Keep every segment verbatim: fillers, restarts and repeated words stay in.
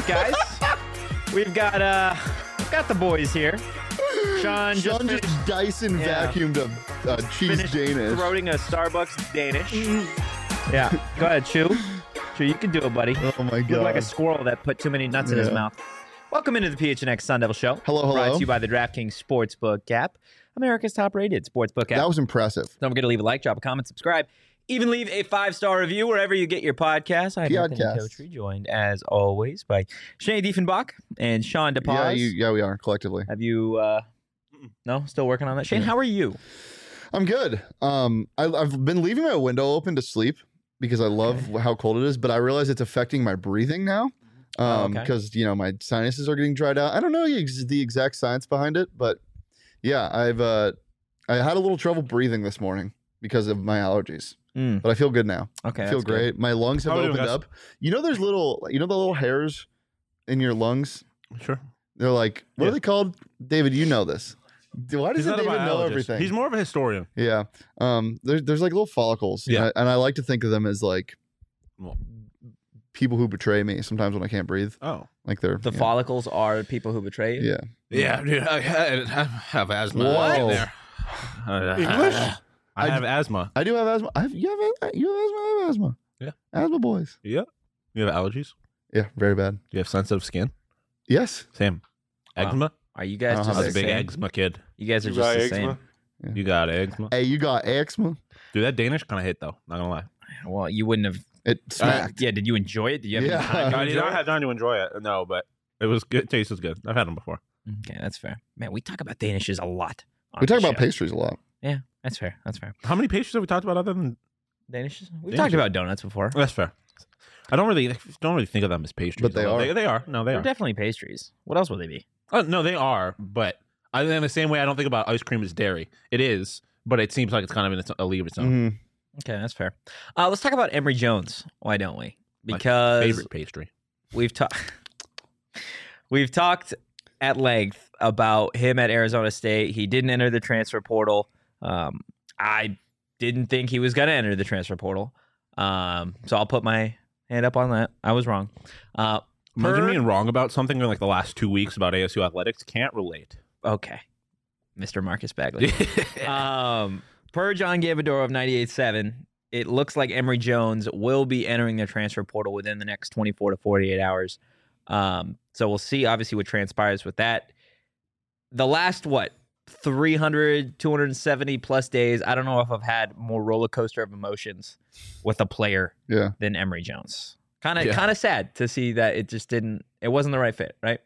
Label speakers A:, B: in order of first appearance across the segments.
A: guys. We've got uh, got the boys here. Sean, just,
B: Sean
A: finished,
B: just Dyson
A: yeah.
B: vacuumed a uh, cheese
A: finished
B: Danish.
A: throating a Starbucks Danish. Yeah, go ahead, chew. Chew, you can do it, buddy.
B: Oh my god!
A: Look like a squirrel that put too many nuts in his
B: Yeah.
A: mouth. Welcome into the P H N X Sun Devil Show.
B: Hello, hello.
A: Brought to you by the DraftKings Sportsbook app, America's top-rated sportsbook app.
B: That was impressive.
A: Don't forget to leave a like, drop a comment, subscribe. Even leave a five-star review wherever you get your podcasts. I'm Anthony
B: Podcast.
A: Totri, joined as always by Shane Diefenbach and Sean DePaz.
B: Yeah, you, yeah, we are collectively.
A: Have you? Uh, no, still working on that. Shane,
B: Yeah.
A: how are you?
B: I'm good. Um, I, I've been leaving my window open to sleep because I love how cold it is, but I realize it's affecting my breathing now.
A: Oh,
B: Um,
A: okay.
B: because you know my sinuses are getting dried out. I don't know the, ex- the exact science behind it, but yeah, I've uh, I had a little trouble breathing this morning because of my allergies.
A: Mm,
B: But I feel good now.
A: okay,
B: I feel
A: that's good.
B: great. My lungs have
C: How are you doing,
B: opened
C: guys?
B: up. You know, there's little, you know, the little hairs in your lungs.
C: Sure.
B: They're like, what
C: Yeah.
B: are they called? David, you know this. Why does
C: He's not a
B: David know
C: biologist.
B: everything?
C: He's more of a historian.
B: Yeah. Um. There's there's like little follicles.
C: Yeah.
B: And I, and I like to think of them as like
C: Well,
B: people who betray me sometimes when I can't breathe.
C: oh.
B: Like they're
A: The
B: yeah.
A: follicles are people who betray you.
B: Yeah.
C: Yeah, dude. I, I have asthma.
B: What?
C: Right there.
B: English?
C: I
B: I-
C: have asthma.
B: I do have asthma. I have, you have a- you have asthma. I have asthma.
C: Yeah.
B: Asthma boys.
C: Yeah. You have allergies?
B: Yeah. Very bad.
C: You have sensitive skin?
B: Yes.
C: Same.
A: Wow.
C: Eczema?
A: Are you
B: I
A: guys
B: don't
A: just
B: have
C: I was
A: the
C: a big
A: same?
C: eczema kid.
A: You guys are
D: You
A: just
D: got
A: the
D: eczema?
A: same.
C: You got eczema?
B: Hey, you got eczema?
C: Dude, that Danish kind of hit, though. Not gonna lie.
A: Well, you wouldn't have.
B: It smacked.
A: Yeah, did you enjoy it? Did you have
B: Yeah.
A: any time to
C: I did
A: enjoy
C: not
A: it?
C: have time to enjoy it. No, but it was good. Taste was good. I've had them before.
A: Okay, that's fair. Man, we talk about Danishes a lot. on
B: we talk
A: the
B: about
A: show.
B: pastries a lot.
A: Yeah, that's fair. That's fair.
C: How many pastries have we talked about other than...
A: Danishes? We've
C: Danishes.
A: talked about donuts before.
C: That's fair. I don't really don't really think of them as pastries.
B: But they
C: although
B: are.
C: They, they are. No, they
A: They're
C: are.
A: definitely pastries. What else would they be?
C: Oh, no, they are. But I, in the same way, I don't think about ice cream as dairy. It is, but it seems like it's kind of in its, a league of its own.
B: Mhm.
A: Okay, that's fair. Uh, let's talk about Emory Jones. Why don't we?
C: My
A: Because
C: favorite pastry.
A: we've talked we've talked at length about him at Arizona State. He didn't enter the transfer portal. Um, I didn't think he was going to enter the transfer portal. Um, so I'll put my hand up on that. I was wrong. Uh,
C: Imagine
A: per-
C: being wrong about something in like the last two weeks about A S U athletics. Can't relate.
A: okay, Mister Marcus Bagley. um, per John Gavadoro of ninety-eight point seven, it looks like Emory Jones will be entering the transfer portal within the next twenty-four to forty-eight hours. Um, so we'll see, obviously, what transpires with that. The last, what, three hundred, two hundred seventy plus days, I don't know if I've had more roller coaster of emotions with a player
B: Yeah.
A: than Emory Jones. Kind of,
C: Yeah.
A: kind of sad to see that it just didn't, it wasn't the right fit, right?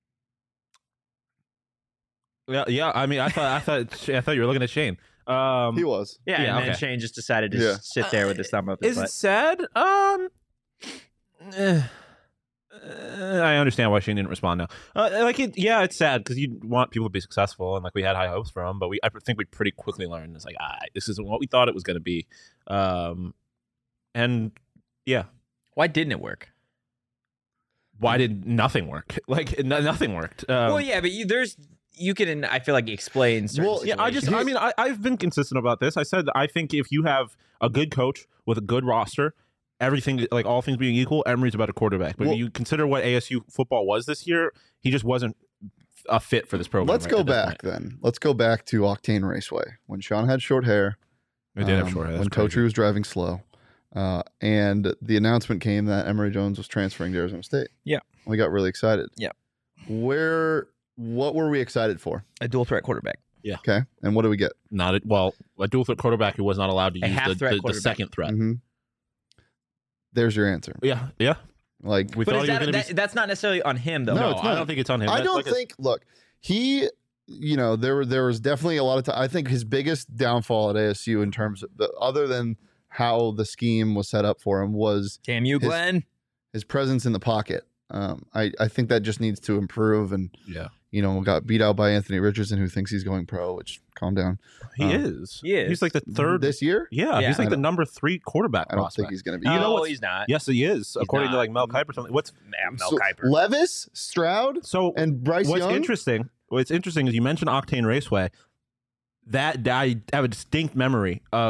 C: yeah, yeah. I mean, I thought, I thought, I thought you were looking at Shane. Um,
B: He was.
A: Yeah,
C: Yeah,
A: and then
C: okay.
A: Shane just decided to
B: Yeah.
A: s- sit there with his thumb up his
C: Is it
A: butt.
C: sad? Um, eh, eh, I understand why Shane didn't respond now. Uh, like, it, yeah, it's sad because you want people to be successful, and like we had high hopes for him, but we, I think we pretty quickly learned it's like, ah, this isn't what we thought it was going to be. Um, and yeah,
A: Why didn't it work?
C: why did nothing work? Like, no, nothing worked. Um,
A: well, yeah, but you, there's you can I feel like explain. Certain
B: Well,
C: Yeah, I just,
A: situations.
C: I mean, I, I've been consistent about this. I said, I think if you have a good coach with a good roster, everything, like all things being equal, Emory's a better quarterback. But
B: Well-
C: if you consider what A S U football was this year, he just wasn't a fit for this program.
B: Let's
C: right
B: go
C: at this
B: back
C: point.
B: then. Let's go back to Octane Raceway when Sean had short hair.
C: We did have
B: um,
C: short hair.
B: when
C: That's crazy.
B: Totri was driving slow, uh, and the announcement came that Emory Jones was transferring to Arizona State.
A: Yeah.
B: We got really excited.
A: Yeah.
B: Where? What were we excited for?
A: a dual threat quarterback.
B: Okay, and what do we get?
C: Not a, well, a dual threat quarterback who was not allowed to
A: A
C: use the,
A: half-threat
C: the, the
A: quarterback.
C: second threat.
B: hmm There's your answer.
C: Yeah, yeah.
B: Like,
C: We
A: But
C: thought
A: is
C: he was
A: that,
C: going to
A: that
C: be.
A: that's not necessarily on him though.
B: No,
C: No,
B: it's
C: I
B: not.
C: don't think it's on him.
B: I
C: That-
B: don't
C: like,
B: think. Look, he. You know, there were there was definitely a lot of time. I think his biggest downfall at A S U in terms of the other than how the scheme was set up for him was
A: Damn you,
B: His-
A: Glenn.
B: his presence in the pocket. Um, I I think that just needs to improve. And
C: Yeah,
B: you know, got beat out by Anthony Richardson, who thinks he's going pro. Which calm down.
C: he
B: Um,
C: is.
A: he is.
C: He's like the third.
B: this year.
C: yeah,
A: Yeah.
C: he's
B: I
C: like the
B: don't-
C: number three quarterback
B: I don't
C: prospect.
B: think he's going to be.
A: no,
C: you know what's-
A: he's not.
C: Yes, he is, according
A: not.
C: to like Mel Kiper. Something. What's
A: Yeah, Mel
B: So,
A: Kiper.
B: Levis, Stroud,
C: so
B: and Bryce
C: What's
B: Young.
C: interesting? What's interesting is you mentioned Octane Raceway. That I have a distinct memory of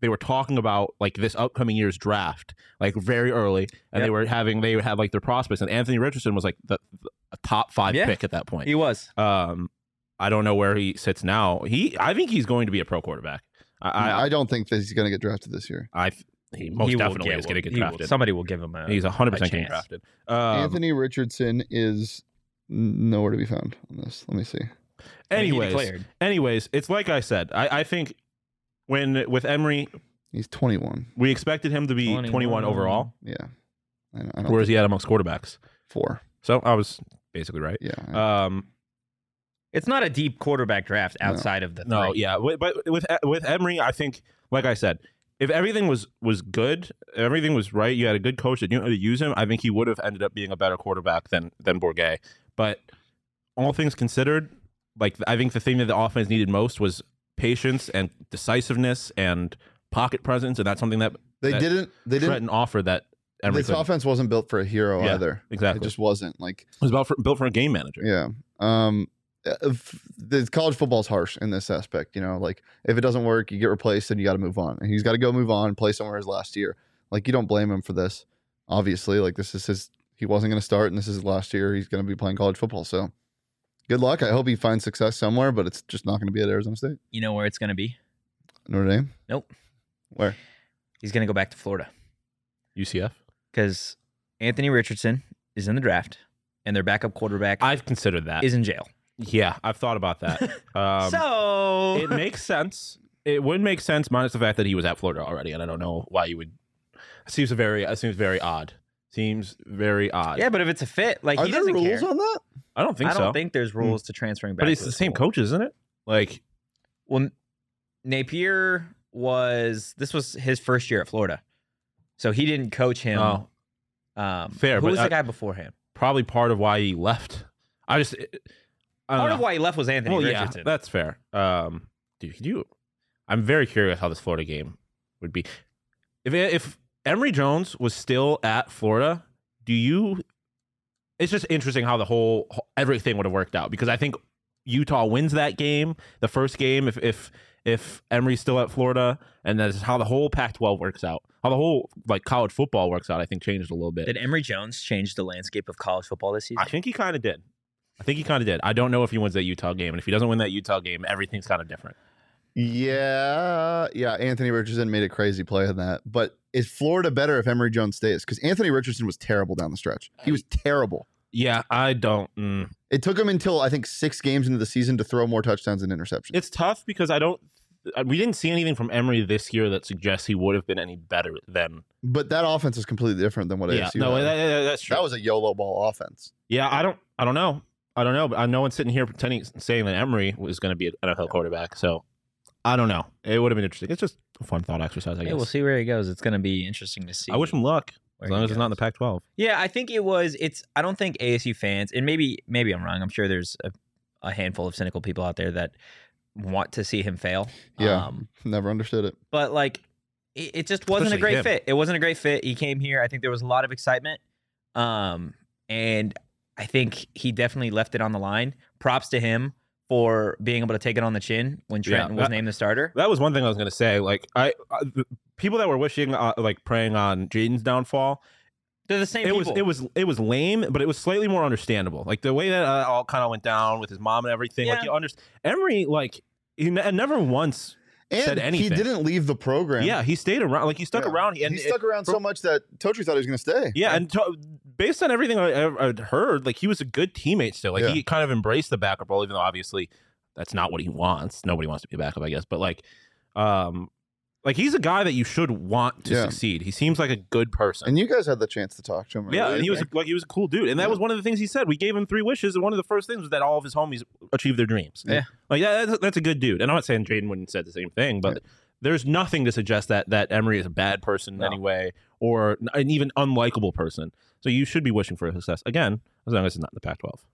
C: they were talking about like this upcoming year's draft, like very early, and
A: Yep.
C: they were having they had like their prospects, and Anthony Richardson was like the, the a top five
A: Yeah.
C: pick at that point.
A: He was.
C: Um, I don't know where he sits now. He, I think he's going to be a pro quarterback. I, I,
B: I don't think that he's going to get drafted this year.
C: I he most
A: He will
C: definitely
A: get
C: is going to
A: one.
C: get
A: He will-
C: drafted.
A: Somebody will give him a.
C: He's one hundred percent
A: a
C: getting
A: chance.
C: drafted. Um,
B: Anthony Richardson is nowhere to be found on this. Let me see.
A: I mean, he
C: anyways,
A: declared.
C: anyways, it's like I said. I, I think when with Emery,
B: He's twenty-one.
C: we expected him to be
A: twenty-one.
C: twenty-one overall.
B: Yeah. I, I don't
C: Where is he at amongst quarterbacks?
B: four.
C: So I was basically right.
B: Yeah.
C: Um,
A: It's not a deep quarterback draft
B: No.
A: outside of the. Three.
C: no, yeah, Wi- but with with Emery, I think, like I said, if everything was was good, everything was right, you had a good coach that knew how to use him, I think he would have ended up being a better quarterback than than Bourget. But all things considered, like I think the thing that the offense needed most was patience and decisiveness and pocket presence, and that's something that
B: they
C: that
B: didn't. They didn't.
C: Trenton offered that Emery
B: This
C: couldn't.
B: offense wasn't built for a hero
C: Yeah,
B: either.
C: exactly.
B: It just wasn't. Like,
C: It was about for, built for a game manager.
B: yeah. Um, if, the college football's harsh in this aspect. You know, like if it doesn't work, you get replaced, and you got to move on. And he's got to go move on, play somewhere his last year. Like, you don't blame him for this. Obviously, like this is his. He wasn't going to start, and this is his last year. He's going to be playing college football. So, good luck. I hope he finds success somewhere, but it's just not going to be at Arizona State.
A: You know where it's going to be?
B: Notre Dame.
A: Nope.
B: Where?
A: He's going to go back to Florida
C: U C F.
A: because Anthony Richardson is in the draft, and their backup quarterback
C: I've considered that.
A: is in jail.
C: Yeah, I've thought about that. Um,
A: so
C: it makes sense. It would make sense, minus the fact that he was at Florida already, and I don't know why you would. It seems very. It seems very odd. Seems very odd.
A: yeah, but if it's a fit, like
B: Are
A: he
B: there
A: doesn't
B: rules
A: care.
B: on that?
C: I don't think
A: I
C: so.
A: don't think there's rules to transferring back.
C: but it's
A: to
C: the
A: a
C: same
A: school.
C: coach, isn't it? Like,
A: Well, Napier was this was his first year at Florida, so he didn't coach him.
C: oh,
A: um,
C: fair,
A: Who
C: but
A: was
C: I-
A: the guy beforehand?
C: probably part of why he left. I just. I don't
A: Part
C: know.
A: of why he left was Anthony
C: Well, yeah,
A: Richardson.
C: that's fair. Um, dude, could you? I'm very curious how this Florida game would be. If if Emory Jones was still at Florida, do you? It's just interesting how the whole everything would have worked out, because I think Utah wins that game, the first game. If if if Emory's still at Florida, and that's how the whole Pac twelve works out, how the whole like college football works out, I think changed a little bit.
A: Did Emory Jones change the landscape of college football this season?
C: I think he kind of did. I think he kind of did. I don't know if he wins that Utah game, and if he doesn't win that Utah game, everything's kind of different.
B: Yeah, yeah. Anthony Richardson made a crazy play on that. But is Florida better if Emory Jones stays? Because Anthony Richardson was terrible down the stretch. He was terrible.
C: Yeah, I don't. Mm.
B: It took him until I think six games into the season to throw more touchdowns and interceptions.
C: It's tough because I don't. We didn't see anything from Emory this year that suggests he would have been any better than.
B: But that offense is completely different than what
C: Yeah,
B: A S U
C: no,
B: had.
C: that, that- that's true.
B: That was a YOLO ball offense.
C: yeah, I don't. I don't know. I don't know. But I know one's sitting here pretending saying that Emory was going to be an N F L quarterback. So I don't know. It would have been interesting. It's just a fun thought exercise. I
A: yeah,
C: guess.
A: we'll see where he goes. It's going to be interesting to see.
C: I wish him luck
A: where
C: as long
A: he
C: as it's not in the
A: goes.
C: Pac twelve.
A: Yeah, I think it was. It's. I don't think A S U fans, and maybe maybe I'm wrong. I'm sure there's a, a handful of cynical people out there that want to see him fail.
B: Yeah.
A: Um,
B: Never understood it.
A: but like, it, it just wasn't
C: Especially
A: a great
C: him.
A: fit. It wasn't a great fit. He came here. I think there was a lot of excitement, um, and I think he definitely left it on the line. Props to him for being able to take it on the chin when
C: Yeah,
A: Trenton was
C: that-
A: named the starter.
C: That was one thing I was going to say. Like I, I, the people that were wishing, uh, like praying on Jaden's downfall.
A: They're the same
C: It was
A: people.
C: it was it was lame, but it was slightly more understandable. Like the way that uh, all kind of went down with his mom and everything. Like
A: Yeah.
C: you understand, Emory, like he ne- never once.
B: And
C: Said
B: he
C: anything.
B: didn't leave the program.
C: Yeah, he stayed around. Like he stuck
B: Yeah.
C: around. And
B: he stuck
C: it-
B: around so much that Totri thought he was going to stay.
C: Yeah, and to, based on everything I, I'd heard, like he was a good teammate still. Like
B: Yeah.
C: he kind of embraced the backup role, even though obviously that's not what he wants. Nobody wants to be a backup, I guess. But like, um, like he's a guy that you should want to
B: Yeah.
C: succeed. He seems like a good person.
B: And you guys had the chance to talk to him.
C: yeah,
B: right?
C: and he was like he was a cool dude, and that
B: Yeah.
C: was one of the things he said. We gave him three wishes, and one of the first things was that all of his homies achieved their dreams.
A: Yeah.
C: like yeah, that's, that's a good dude. And I'm not saying Jaden wouldn't said the same thing, but there's nothing to suggest that that Emory is a bad person in
A: No.
C: any way, or an even unlikable person. So you should be wishing for success again, as long as it's not in the Pac twelve.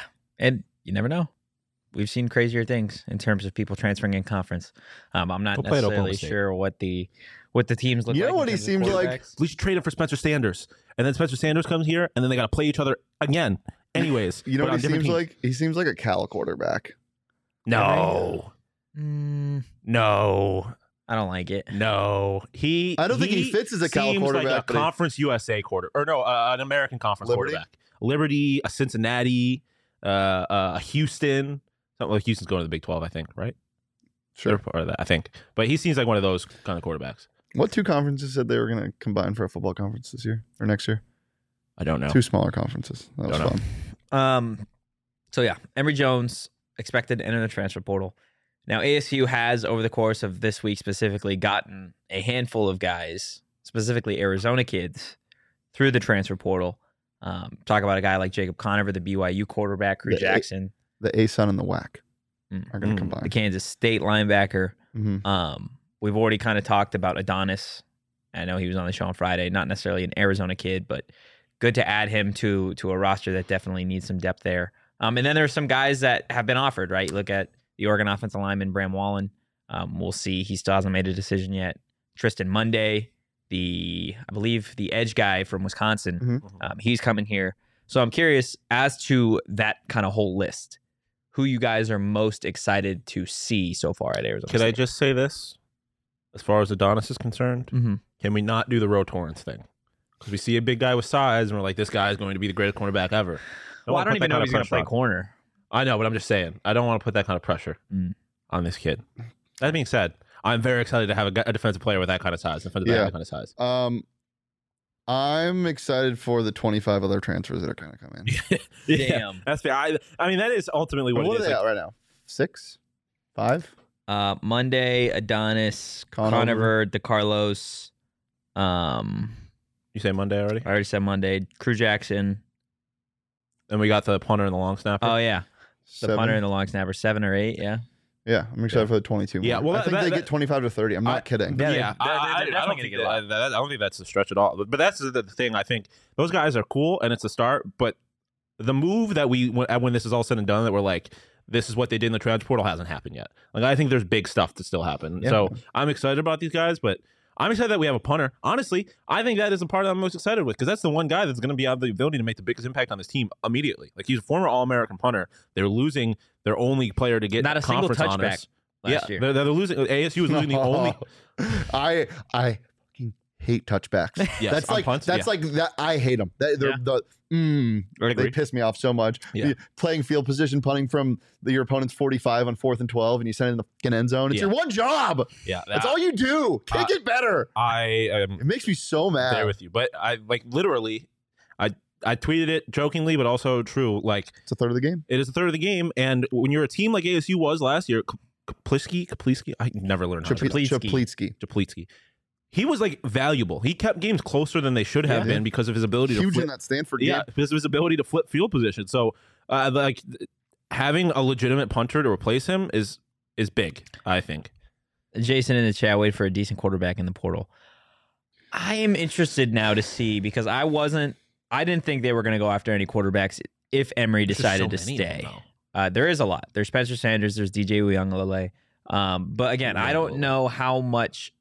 A: And you never know. We've seen crazier things in terms of people transferring in conference. Um, I'm not
C: He'll play at Oklahoma
A: necessarily
C: State.
A: sure what the what the teams look
B: You
A: like.
B: know
A: in
B: what he
A: terms of
B: seems like?
A: quarterbacks.
C: We should trade him for Spencer Sanders, and then Spencer Sanders comes here, and then they got to play each other again. Anyways,
B: You know
C: but
B: what
C: on
B: he
C: different
B: seems
C: teams.
B: like? He seems like a Cal quarterback.
C: No,
A: Mm,
C: no.
A: I don't like it.
C: No, he.
B: I don't think he fits as a Cal
C: seems
B: quarterback,
C: like a
B: but he-
C: Conference U S A quarter, or no, uh, an American Conference
B: Liberty?
C: quarterback. Liberty, a Cincinnati, uh, uh, a Houston. Something like Houston's going to the Big twelve, I think, right?
B: Sure.
C: They're part of that, I think. But he seems like one of those kind of quarterbacks.
B: What two conferences said they were going to combine for a football conference this year or next year?
C: I don't know.
B: Two smaller conferences. That was
C: Don't know.
B: fun.
A: Um, so yeah, Emory Jones expected to enter the transfer portal. Now A S U has, over the course of this week specifically, gotten a handful of guys, specifically Arizona kids, through the transfer portal. Um, talk about a guy like Jacob Conover, the B Y U quarterback, Crew
B: The A-
A: Jackson,
B: The A-Sun and the W A C
A: Mm.
B: are going
C: Mm.
B: to
A: the
B: combine.
A: Kansas State linebacker.
B: Mm-hmm.
A: Um, we've already kind of talked about Adonis. I know he was on the show on Friday. Not necessarily an Arizona kid, but good to add him to to a roster that definitely needs some depth there. Um, and then there's some guys that have been offered, right? Look at the Oregon offensive lineman, Bram Wallen. Um, we'll see. He still hasn't made a decision yet. Tristan Monday, the I believe the edge guy from Wisconsin,
B: Mhm.
A: um, he's coming here. So I'm curious as to that kind of whole list. Who you guys are most excited to see so far at Arizona
C: Could I
A: State?
C: just say this? As far as Adonis is concerned,
A: Mhm.
C: can we not do the Ro Torrance thing? Because we see a big guy with size, and we're like, this guy is going to be the greatest cornerback ever.
A: Well, I
C: wanna
A: don't
C: put
A: even
C: that
A: know
C: kind
A: if
C: of
A: he's going to
C: pressure
A: play
C: on-
A: corner.
C: I know, but I'm just saying. I don't want to put that kind of pressure
A: Mm.
C: on this kid. That being said, I'm very excited to have a, gu- a defensive player with that kind of size, defensive back
B: Yeah.
C: with that kind of size.
B: Um, I'm excited for the twenty-five other transfers that are going to come in.
A: Damn.
C: That's fair. I, I mean, that is ultimately what
B: what
C: it
B: are
C: is.
B: they
C: Like,
B: at right now? Six? Five?
A: Uh, Monday, Adonis,
B: Conover.
A: Conover, DeCarlos. Um,
C: you say Monday already?
A: I already said Monday. Crew Jackson.
C: And we got the punter and the long snapper.
A: Oh yeah, the
B: Seven?
A: punter and the long snapper. Seven or eight. Yeah.
B: Yeah, I'm excited
C: Yeah.
B: for the twenty-two.
C: Yeah,
B: more.
C: well,
B: I think
C: that-
B: they
C: that-
B: get twenty-five to thirty. I'm not
C: I-
B: kidding.
A: Yeah,
C: Yeah,
A: they're-
C: I,
A: they're-
C: I-
A: they're
C: I
A: definitely
C: don't
A: gonna
C: think
A: get a lot.
C: that- that- I don't think that's a stretch at all. But that's the, the thing. I think those guys are cool, and it's a start. But the move that we when, when this is all said and done, that we're like, this is what they did in the transfer portal, hasn't happened yet. Like I think there's big stuff to still happen.
B: Yeah.
C: So I'm excited about these guys, but I'm excited that we have a punter. Honestly, I think that is the part that I'm most excited with because that's the one guy that's going to be have the ability to make the biggest impact on this team immediately. Like he's a former All-American punter. They're losing their only player to get
A: Not a single
C: conference
A: touchback
C: honors.
A: last
C: yeah,
A: year.
C: They're, they're losing. A S U is losing the only.
B: I I fucking hate touchbacks.
C: Yes,
B: that's
C: on
B: like
C: punts,
B: that's
C: yeah.
B: like that. I hate them. They, they're
A: Yeah.
B: the mm,
C: I
B: they
C: agree.
B: piss me off so much.
C: Yeah.
B: You- Playing field position, punting from the, your opponent's forty-five on fourth and twelve, and you send it in the fucking end zone. It's
C: Yeah.
B: your one job.
C: Yeah,
B: That's
C: that-
B: all you do. Kick
C: Uh,
B: it better.
C: I am
B: It makes me so mad.
C: there with you, but I like literally, I I tweeted it jokingly, but also true. Like
B: It's a third of the game.
C: it is a third of the game, and when you're a team like A S U was last year, Kapliski, Kapliski, I never learned how to
B: Chapl-
A: Chaplitsky.
B: Chaplitsky.
C: Japlitsky. He was like valuable. He kept games closer than they should have
B: Yeah.
C: been because of his ability to
B: Huge
C: flip.
B: in that Stanford
C: Yeah,
B: game.
C: because of his ability to flip field position. So, uh, like having a legitimate punter to replace him is is big. I think.
A: Jason in the chat, wait for a decent quarterback in the portal. I am interested now to see because I wasn't, I didn't think they were going to go after any quarterbacks if Emory
C: There's just
A: decided
C: so
A: to
C: many of them,
A: stay.
C: though.
A: Uh, there is a lot. There's Spencer Sanders. There's D J Uyunglele. Um, but again, I don't know how much,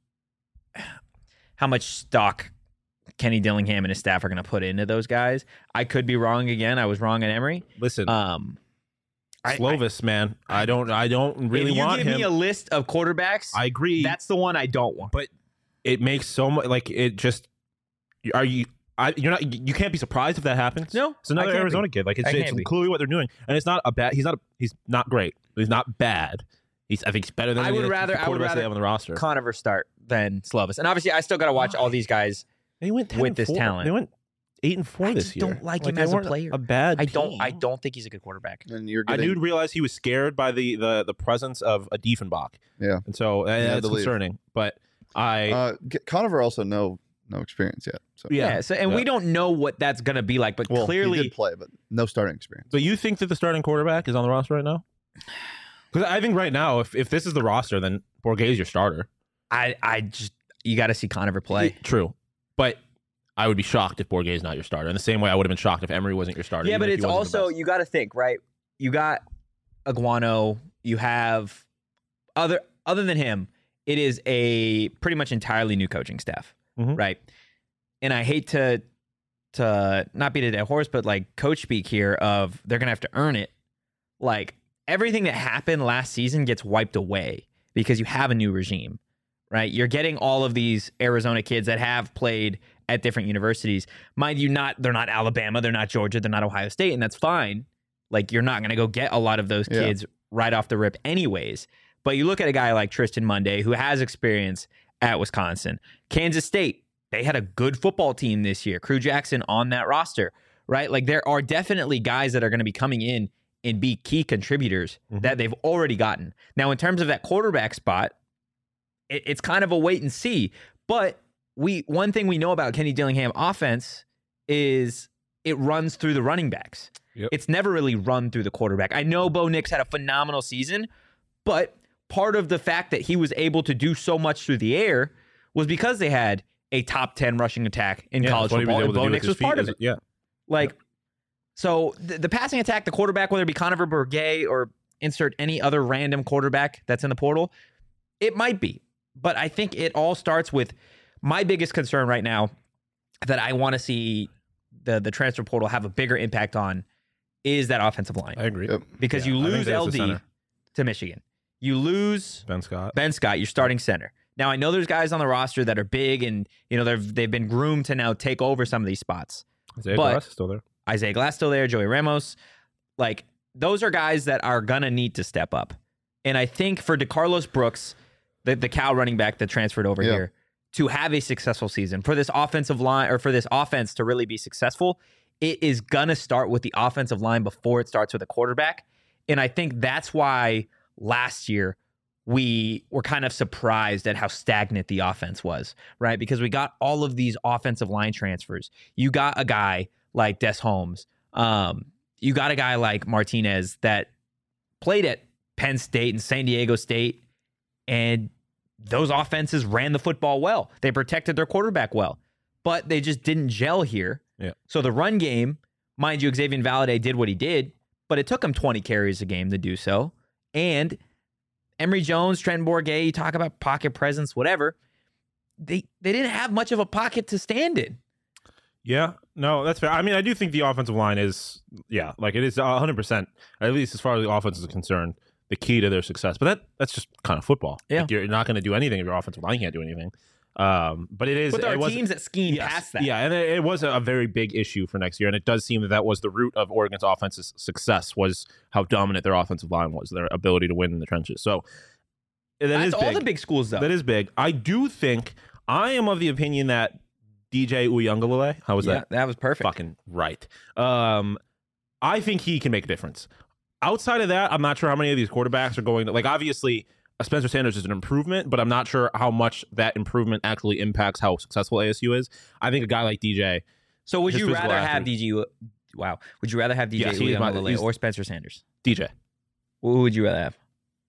A: how much stock Kenny Dillingham and his staff are going to put into those guys. I could be wrong again. I was wrong at Emory.
C: Listen,
A: Um, I-
C: Slovis, man, I don't, I don't really
A: if you
C: want
A: give
C: him.
A: me a list of quarterbacks,
C: I agree.
A: that's the one I don't want.
C: but it makes so much like it just are you I you're not you can't be surprised if that happens.
A: No,
C: it's another
A: I can't
C: Arizona
A: be.
C: kid. Like it's,
A: I
C: it's
A: can't be.
C: clearly what they're doing, and it's not a bad. He's not a he's not great. He's not bad. He's I think he's better than
A: I
C: any
A: would
C: of the
A: rather- I would
C: quarterbacks
A: rather
C: they have on the roster.
A: Conover start than Slovis. And obviously, I still got to watch all these guys.
C: They went ten
A: with
C: and
A: this
C: four.
A: talent.
C: They went eight and four
A: I
C: this
A: just
C: year.
A: don't like him
C: they
A: as a
C: weren't
A: player.
C: A bad.
A: I don't.
C: team.
A: I don't think he's a good quarterback.
B: And you're
C: I
B: getting,
C: do realize he was scared by the the the presence of a Diefenbach.
B: Yeah.
C: and so uh,
B: had
C: that's
B: to leave.
C: concerning. But I
B: uh, get- Conover also no no experience yet. So
A: Yeah. so, and we
C: yeah.
A: don't know what that's going to be like, but
B: well, he
A: clearly,
B: did play, but no starting experience.
C: So you think that the starting quarterback is on the roster right now? Because I think right now, if, if this is the roster, then Borghese your starter.
A: I, I just you got to see Conover play.
C: True, but I would be shocked if Borghese is not your starter. In the same way, I would have been shocked if Emery wasn't your starter.
A: Yeah,
C: even
A: but
C: if
A: it's
C: he wasn't the
A: also
C: best.
A: you got to think right. You got Aguano. You have other other than him. It is a pretty much entirely new coaching staff,
C: Mhm.
A: right? And I hate to to not beat a dead horse, but like coach speak here of they're gonna have to earn it. Like everything that happened last season gets wiped away because you have a new regime, right? You're getting all of these Arizona kids that have played at different universities. Mind you, not they're not Alabama, they're not Georgia, they're not Ohio State, and that's fine. Like, you're not going to go get a lot of those kids yeah. right off the rip anyways. But you look at a guy like Tristan Munday, who has experience at Wisconsin. Kansas State, they had a good football team this year. Crew Jackson on that roster, right? Like, there are definitely guys that are going to be coming in and be key contributors mm-hmm. that they've already gotten. Now, in terms of that quarterback spot, it, it's kind of a wait and see. But we one thing we know about Kenny Dillingham offense is it runs through the running backs. Yep. It's never really run through the quarterback. I know Bo Nix had a phenomenal season, but part of the fact that he was able to do so much through the air was because they had a top ten rushing attack in
C: yeah,
A: college football, and Bo Nix was part of it.
C: Yeah.
A: Like,
C: yep.
A: so the, the passing attack, the quarterback, whether it be Conover Bourguet or insert any other random quarterback that's in the portal, it might be. But I think it all starts with my biggest concern right now that I want to see the, the transfer portal have a bigger impact on is that offensive line.
C: I agree. Yep.
A: Because yeah, you lose L D to Michigan. You lose
C: Ben Scott.
A: Ben Scott, your starting center. Now, I know there's guys on the roster that are big and, you know, they've they've been groomed to now take over some of these spots.
C: Isaiah Glass is still there.
A: Isaiah Glass still there, Joey Ramos. Like, those are guys that are going to need to step up. And I think for DeCarlos Brooks, the, the Cal running back that transferred over yeah. here, to have a successful season, for this offensive line or for this offense to really be successful, it is going to start with the offensive line before it starts with a quarterback. And I think that's why last year we were kind of surprised at how stagnant the offense was, right? Because we got all of these offensive line transfers. You got a guy like Des Holmes. Um, you got a guy like Martinez that played at Penn State and San Diego State, and those offenses ran the football well. They protected their quarterback well, but they just didn't gel here.
C: Yeah.
A: So the run game, mind you, Xavier Valade did what he did, but it took him twenty carries a game to do so. And Emory Jones, Trent Bourguet, you talk about pocket presence, whatever. They they didn't have much of a pocket to stand in.
C: Yeah, no, that's fair. I mean, I do think the offensive line is, yeah, like it is one hundred percent, at least as far as the offense is concerned, the key to their success. But that that's just kind of football.
A: Yeah.
C: Like, you're not going to do anything if your offensive line can't do anything. Um, but it is.
A: But there
C: it
A: are
C: was,
A: teams that scheme
C: yes,
A: past that.
C: Yeah, and it, it was a, a very big issue for next year, and it does seem that that was the root of Oregon's offense's success, was how dominant their offensive line was, their ability to win in the trenches. So that
A: That's
C: is
A: all
C: big.
A: the big schools, though.
C: That is big. I do think, I am of the opinion that D J Uiagalelei, how was
A: yeah,
C: that?
A: That was perfect.
C: Fucking right. Um, I think he can make a difference. Outside of that, I'm not sure how many of these quarterbacks are going to, like, obviously, Spencer Sanders is an improvement, but I'm not sure how much that improvement actually impacts how successful A S U is. I think a guy like D J.
A: So would
C: his
A: you
C: physical
A: rather have
C: attribute-
A: D J? Wow. Would you rather have D J
C: Yes, he is my-
A: Uiagalelei
C: he's-
A: or Spencer Sanders?
C: D J.
A: Who would you rather have?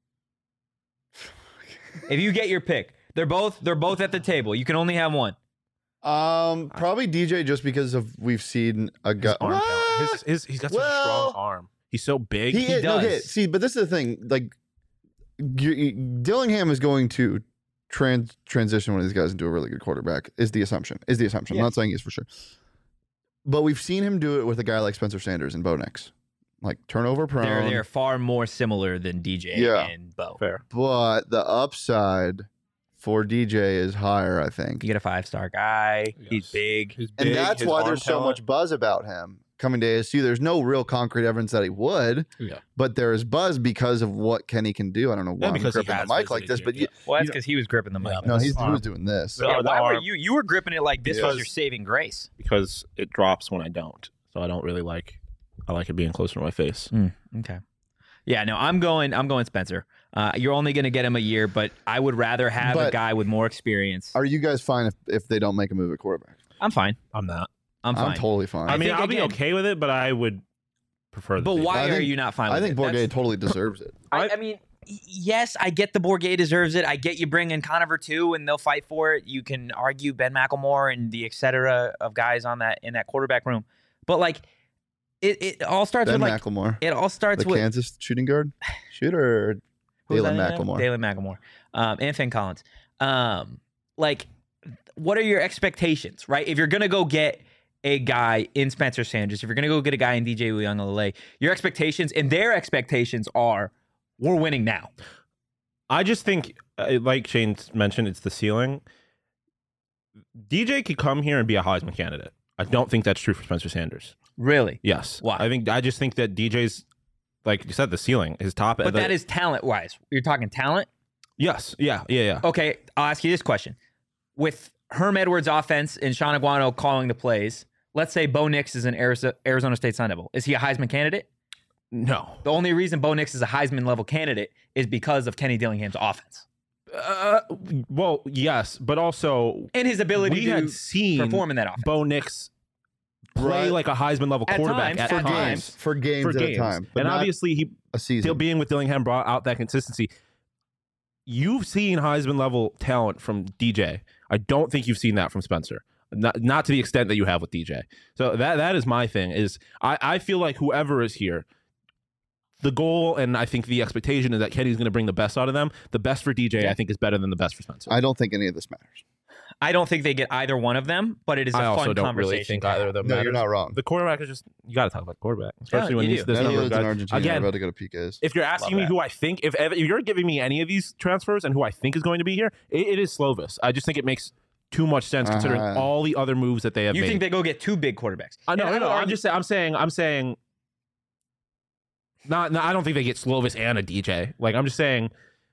A: If you get your pick, they're both they're both at the table. You can only have one.
B: Um, probably D J, just because of we've seen a guy.
C: His arm talent. His, his, he's got such a
B: Well,
C: strong arm. He's so big.
B: He,
A: He
B: is,
A: does.
B: okay, see, but this is the thing. Like, you, you- Dillingham is going to trans transition one of these guys into a really good quarterback. Is the assumption? Is the assumption?
A: Yeah.
B: I'm not saying he's for sure, but we've seen him do it with a guy like Spencer Sanders and Bo Nix, like turnover prone.
A: They're they're far more similar than D J
B: Yeah.
A: and Bo.
C: Fair.
B: But the upside for D J is higher, I think.
A: You get a five star guy. He's
C: Yes.
A: big.
C: He's
B: And
C: big,
B: that's
C: his
B: why
C: arm
B: there's so
C: talent.
B: much buzz about him coming to A S U. There's no real concrete evidence that he would,
C: Yeah.
B: but there is buzz because of what Kenny can do. I don't know why
C: Yeah,
B: I'm
C: because he
B: gripping the
C: has
B: mic like this,
C: visited
B: but
C: here,
B: you,
A: Well, that's
B: you know-
A: because he was gripping the mic.
C: Yeah,
B: no, he's,
C: his
B: he
C: arm.
B: was doing this.
C: The-
A: Yeah,
C: the
A: why were
C: arm-
A: you you were gripping it like this was
C: Because-
A: your saving grace?
C: because it drops when I don't. So I don't really like. I like it being closer to my face.
A: Mm, okay. Yeah, no, I'm going. I'm going Spencer. Uh, you're only going to get him a year, but I would rather have a
B: But-
A: guy with more experience.
B: Are you guys fine if, if they don't make a move at quarterback?
A: I'm fine.
C: I'm not.
A: I'm fine.
B: I'm totally fine.
C: I
B: I,
C: mean,
A: think
C: I'll
A: again-
C: be okay with it, but I would prefer. The
A: but
C: safety.
A: why
B: I
A: are
B: think-
A: you not fine? with
B: think
A: it?
B: Bourguet
A: That's-
B: totally deserves it.
A: I, I mean, y- yes, I get the Bourguet deserves it. I get you bring in Conover too, and they'll fight for it. You can argue Ben McElmore and the et cetera of guys on that in that quarterback room, but like, it, it all starts
B: Ben
A: with like
B: McElmore,
A: it all starts
B: the
A: with
B: Kansas shooting guard, shooter.
A: who's
B: Dalen
A: that name?
B: McElmore.
A: Dalen McElmore, um, and Finn Collins. Um, like, what are your expectations, right? If you're gonna go get a guy in Spencer Sanders, if you're gonna go get a guy in D J Uiagalelei, your expectations and their expectations are we're winning now.
C: I just think, uh, like Shane mentioned, it's the ceiling. D J could come here and be a Heisman candidate. I don't think that's true for Spencer Sanders.
A: Really?
C: Yes.
A: Why?
C: I think I just think that D J's, like you said, the ceiling, his top.
A: But
C: the,
A: that is talent-wise. You're talking talent?
C: Yes. Yeah. Yeah. Yeah.
A: Okay, I'll ask you this question. With Herm Edwards' offense and Sean Aguano calling the plays, let's say Bo Nix is an Arizo- Arizona State Sun Devil. Is he a Heisman candidate?
C: No.
A: The only reason Bo Nix is a Heisman level candidate is because of Kenny Dillingham's offense
C: Uh, well, yes, but also
A: and his ability
C: we
A: to
C: had seen
A: perform in that offense.
C: Bo Nix play
B: Right.
C: like a Heisman level
A: At
C: quarterback
A: times,
C: at
A: for
C: times.
A: games.
B: for games
C: For
B: at
C: games.
B: a time, but
C: and
B: not
C: obviously, he
B: a season.
C: still being with Dillingham brought out that consistency. You've seen Heisman level talent from D J. I don't think you've seen that from Spencer. Not, not to the extent that you have with D J. So that that is my thing. Is I, I feel like whoever is here, the goal and I think the expectation is that Kenny's going to bring the best out of them. The best for D J, I think, is better than the best for Spencer.
B: I don't think any of this matters.
A: I don't think they get either one of them, but it is a
C: I
A: fun
C: also don't
A: conversation.
C: really think either of them.
B: No,
C: matters.
B: you're not wrong.
C: The quarterback is just you got to talk about quarterback, especially
A: Yeah,
C: when
A: you
C: these
A: do.
C: this
B: None
C: number
B: of
C: of
B: those in
C: guys.
B: Argentina
C: Again,
B: are about to go to P Ks.
C: if you're asking
A: Love
C: me
A: that.
C: who I think, if, if you're giving me any of these transfers and who I think is going to be here, it, it is Slovis. I just think it makes too much sense considering
B: Uh-huh.
C: all the other moves that they have
A: You
C: made.
A: think they go get two big quarterbacks?
C: I know,
A: And
C: no, no.
A: would
C: I'm
A: argue-
C: just saying. I'm saying. I'm saying. Not. No, I don't think they get Slovis and a D J. Like I'm just saying.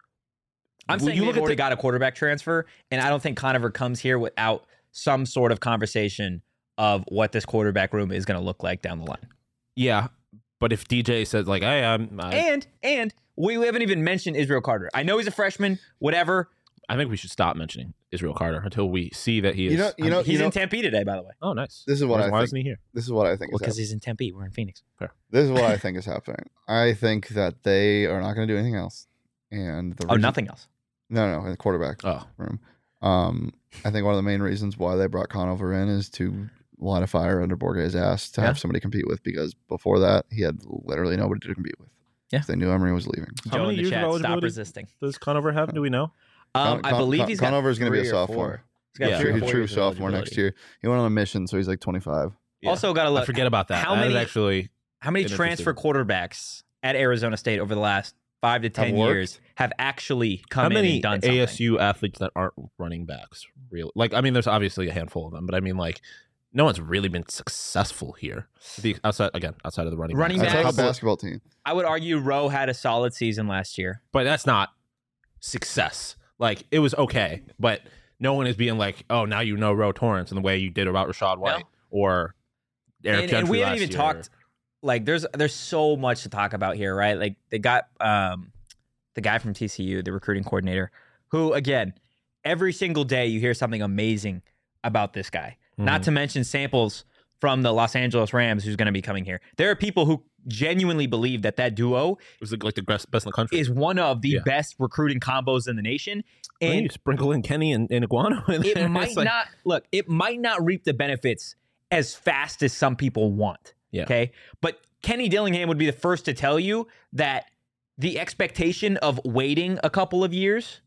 A: I'm
C: when
A: saying
C: you
A: they've
C: look at
A: already
C: the-
A: got a quarterback transfer, and I don't think Conover comes here without some sort of conversation of what this quarterback room is going to look like down the line.
C: Yeah, but if D J says like, "Hey, I'm," I,
A: And and we haven't even mentioned Israel Carter. I know he's a freshman, whatever.
C: I think we should stop mentioning Israel Carter until we see that he is.
B: You know, you know,
A: he's
B: you know,
A: in Tempe today, by the way.
C: oh, nice.
B: This is what
C: Why-
B: I
C: Why
B: think.
C: isn't he here?
B: This is what I think
A: Well,
B: is
A: because
B: happening.
A: he's in Tempe. We're in Phoenix.
B: This is what I think is happening. I think that they are not going to do anything else. And the
A: Oh,
B: reason-
A: nothing else.
B: No, no, in the quarterback
C: Oh,
B: room. Um, I think one of the main reasons why they brought Conover in is to light a fire under Borge's ass to
A: Yeah.
B: have somebody compete with, because before that he had literally nobody to compete with.
A: Yeah.
B: They knew Emery was leaving.
C: How
A: Joe
C: many
A: in the
C: years of
A: chat, stop
C: eligibility?
A: resisting.
C: does Conover have? Do we know?
A: Um,
B: Con-
A: I
B: Con-
A: believe
B: Con-
A: he's got
B: Conover's gonna be a
A: three or
B: sophomore.
A: four. He's got
C: Yeah.
A: three or
B: True,
A: four
B: true
A: years of
B: sophomore next
A: eligibility.
B: year. He went on a mission, so he's like twenty-five.
C: Yeah.
A: Also, got to
C: I
A: look.
C: forget about that.
A: how
C: That is
A: many-
C: actually
A: How many
C: Been
A: transfer quarterbacks at Arizona State over the last five to ten
B: worked?
A: years have actually come
C: how
A: in
C: many
A: and done something?
C: A S U athletes that aren't running backs? Really? Like, I mean, there's obviously a handful of them, but I mean, like, no one's really been successful here. The outside again, outside of the running
A: Running
C: backs.
B: That's
A: backs-
B: how basketball team.
A: I would argue Rowe had a solid season last year.
C: But that's not success. Like, it was okay, but no one is being like, oh, now you know Roe Torrance in the way you did about Rashad White
A: No.
C: or Eric
A: And,
C: Gentry
A: and we haven't
C: last
A: even
C: year.
A: talked. Like, there's there's so much to talk about here, right? Like, they got um, the guy from T C U, the recruiting coordinator, who again, every single day you hear something amazing about this guy. Not
C: Mhm.
A: to mention samples from the Los Angeles Rams, who's going to be coming here. There are people who genuinely believe that that duo
C: It was like the best, best in the country.
A: is one of the
C: Yeah.
A: best recruiting combos in the nation.
C: And
A: And
C: you sprinkle in Kenny and, and Iguano in there.
A: it might
C: It's like-
A: not look, it might not reap the benefits as fast as some people want.
C: Yeah.
A: Okay. But Kenny Dillingham would be the first to tell you that the expectation of waiting a couple of years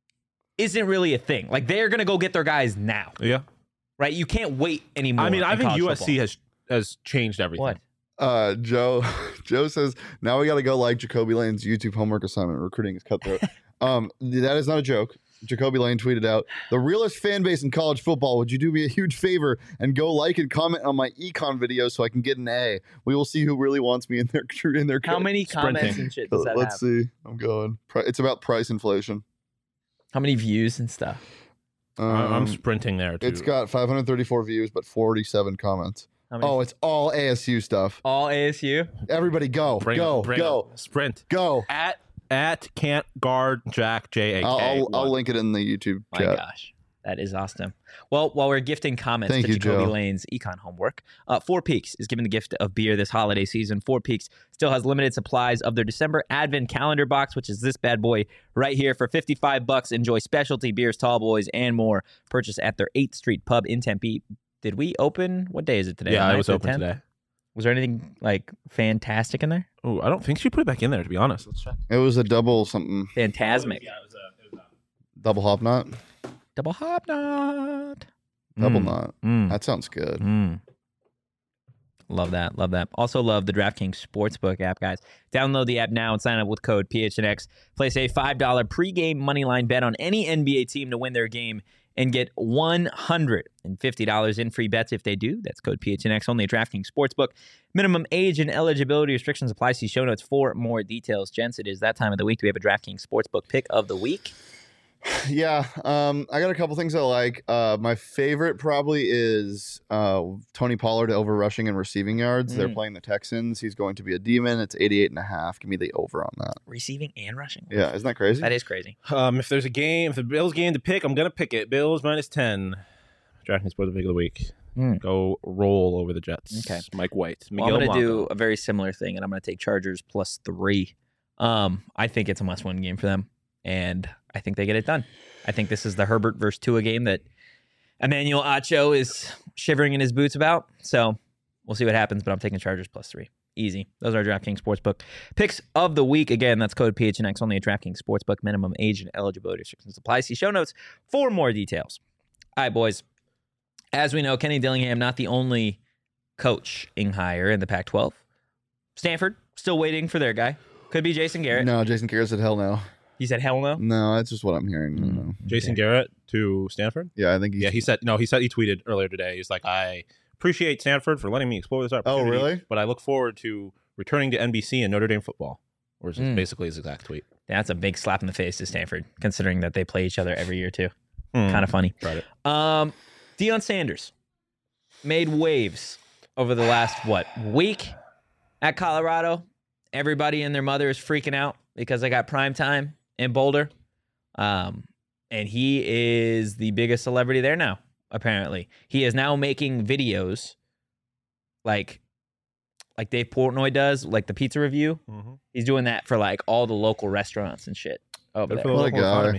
A: isn't really a thing. Like, they're going to go get their guys now,
C: Yeah.
A: right? You can't wait anymore.
C: I mean, I
A: in
C: think
A: college
C: U S C
A: football.
C: has has changed everything.
A: What?
B: Uh, Joe, Joe says now we got to go like Jacoby Lane's YouTube homework assignment. Recruiting is cutthroat. um, that is not a joke. Jacoby Lane tweeted out, "The realest fan base in college football. Would you do me a huge favor and go like and comment on my econ video so I can get an A? We will see who really wants me in their in their.
A: How
B: coach."
A: many comments
C: Sprinting.
A: and shit does that
B: Let's
A: have?
B: see. I'm going. Pri- It's about price inflation.
A: How many views and stuff?
B: Um,
C: I- I'm sprinting there too.
B: it's got five hundred thirty-four views, but forty-seven comments.
A: How many?
B: Oh, it's all A S U stuff.
A: All A S U?
B: Everybody, go,
C: Bring
B: go,
C: it, bring
B: go,
C: it. Sprint
B: go.
C: at at can't guard Jack J A K.
B: I'll, I'll, I'll
C: one.
B: link it in the YouTube
A: My
B: chat.
A: gosh. That is awesome. Well, while we're gifting comments
B: Thank
A: to
B: you,
A: Jacoby
B: Joe.
A: Lane's econ homework, uh, Four Peaks is giving the gift of beer this holiday season. Four Peaks still has limited supplies of their December Advent calendar box, which is this bad boy right here for fifty-five bucks. Enjoy specialty beers, tall boys, and more. Purchase at their eighth Street pub in Tempe. Did we open? What day is it today?
C: Yeah,
A: The
C: it was
A: ninth or
C: open
A: tenth?
C: today.
A: Was there anything like fantastic in there?
C: Oh, I don't think she put it back in there. To be honest, let's check.
B: It was a double something,
A: Phantasmic.
C: Yeah, it was a, it was a
B: double hop knot,
A: Double hop knot.
B: double
C: Mm.
B: knot.
C: Mm.
B: That sounds good.
C: Mm.
A: Love that. Love that. Also love the DraftKings Sportsbook app, guys. Download the app now and sign up with code P H N X. Place a five dollars pregame moneyline bet on any N B A team to win their game and get one hundred fifty dollars in free bets if they do. That's code P H N X only at DraftKings Sportsbook. Minimum age and eligibility restrictions apply. See show notes for more details. Gents, it is that time of the week. Do we have a DraftKings Sportsbook pick of the week?
B: Yeah, um, I got a couple things I like. Uh, my favorite probably is uh, Tony Pollard over rushing and receiving yards. Mm. They're playing the Texans. He's going to be a demon. It's eighty-eight and a half. Give me the over on that.
A: Receiving and rushing.
B: Yeah, isn't that crazy?
A: That is crazy.
C: Um, if there's a game, if the Bills game to pick, I'm gonna pick it. Bills minus ten. DraftKings Sportsbook pick of the week. Mm. Go roll over the Jets.
A: Okay.
C: Mike White.
A: Well, I'm going to do a very similar thing, and I'm going to take Chargers plus three. Um, I think it's a must-win game for them, and I think they get it done. I think this is the Herbert versus Tua game that Emmanuel Acho is shivering in his boots about. So we'll see what happens, but I'm taking Chargers plus three. Easy. Those are our DraftKings Sportsbook picks of the week. Again, that's code P H N X only at DraftKings Sportsbook. Minimum age and eligibility restrictions apply. See show notes for more details. All right, boys. As we know, Kenny Dillingham, not the only coaching hire in the Pac twelve. Stanford, still waiting for their guy. Could be Jason Garrett.
B: No, Jason Garrett said hell no.
A: He said hell no?
B: No, that's just what I'm hearing. Mm. No.
C: Jason
A: Okay.
C: Garrett to Stanford?
B: Yeah, I think he's...
C: Yeah, he said, no, he said, he tweeted earlier today. He's like, I appreciate Stanford for letting me explore this opportunity.
B: Oh, really?
C: But I look forward to returning to N B C and Notre Dame football. Or is
A: Mm.
C: basically his exact tweet.
A: That's a big slap in the face to Stanford, considering that they play each other every year, too.
C: Mm.
A: Kind of funny.
C: Right.
A: Um, Deion Sanders made waves over the last, what, week at Colorado. Everybody and their mother is freaking out because they got prime time in Boulder. Um, and he is the biggest celebrity there now, apparently. He is now making videos like like Dave Portnoy does, like the pizza review.
C: Mm-hmm.
A: He's doing that for like all the local restaurants and shit over
C: Good
A: there.
C: for the
B: What a
C: local
B: guy.
C: economy.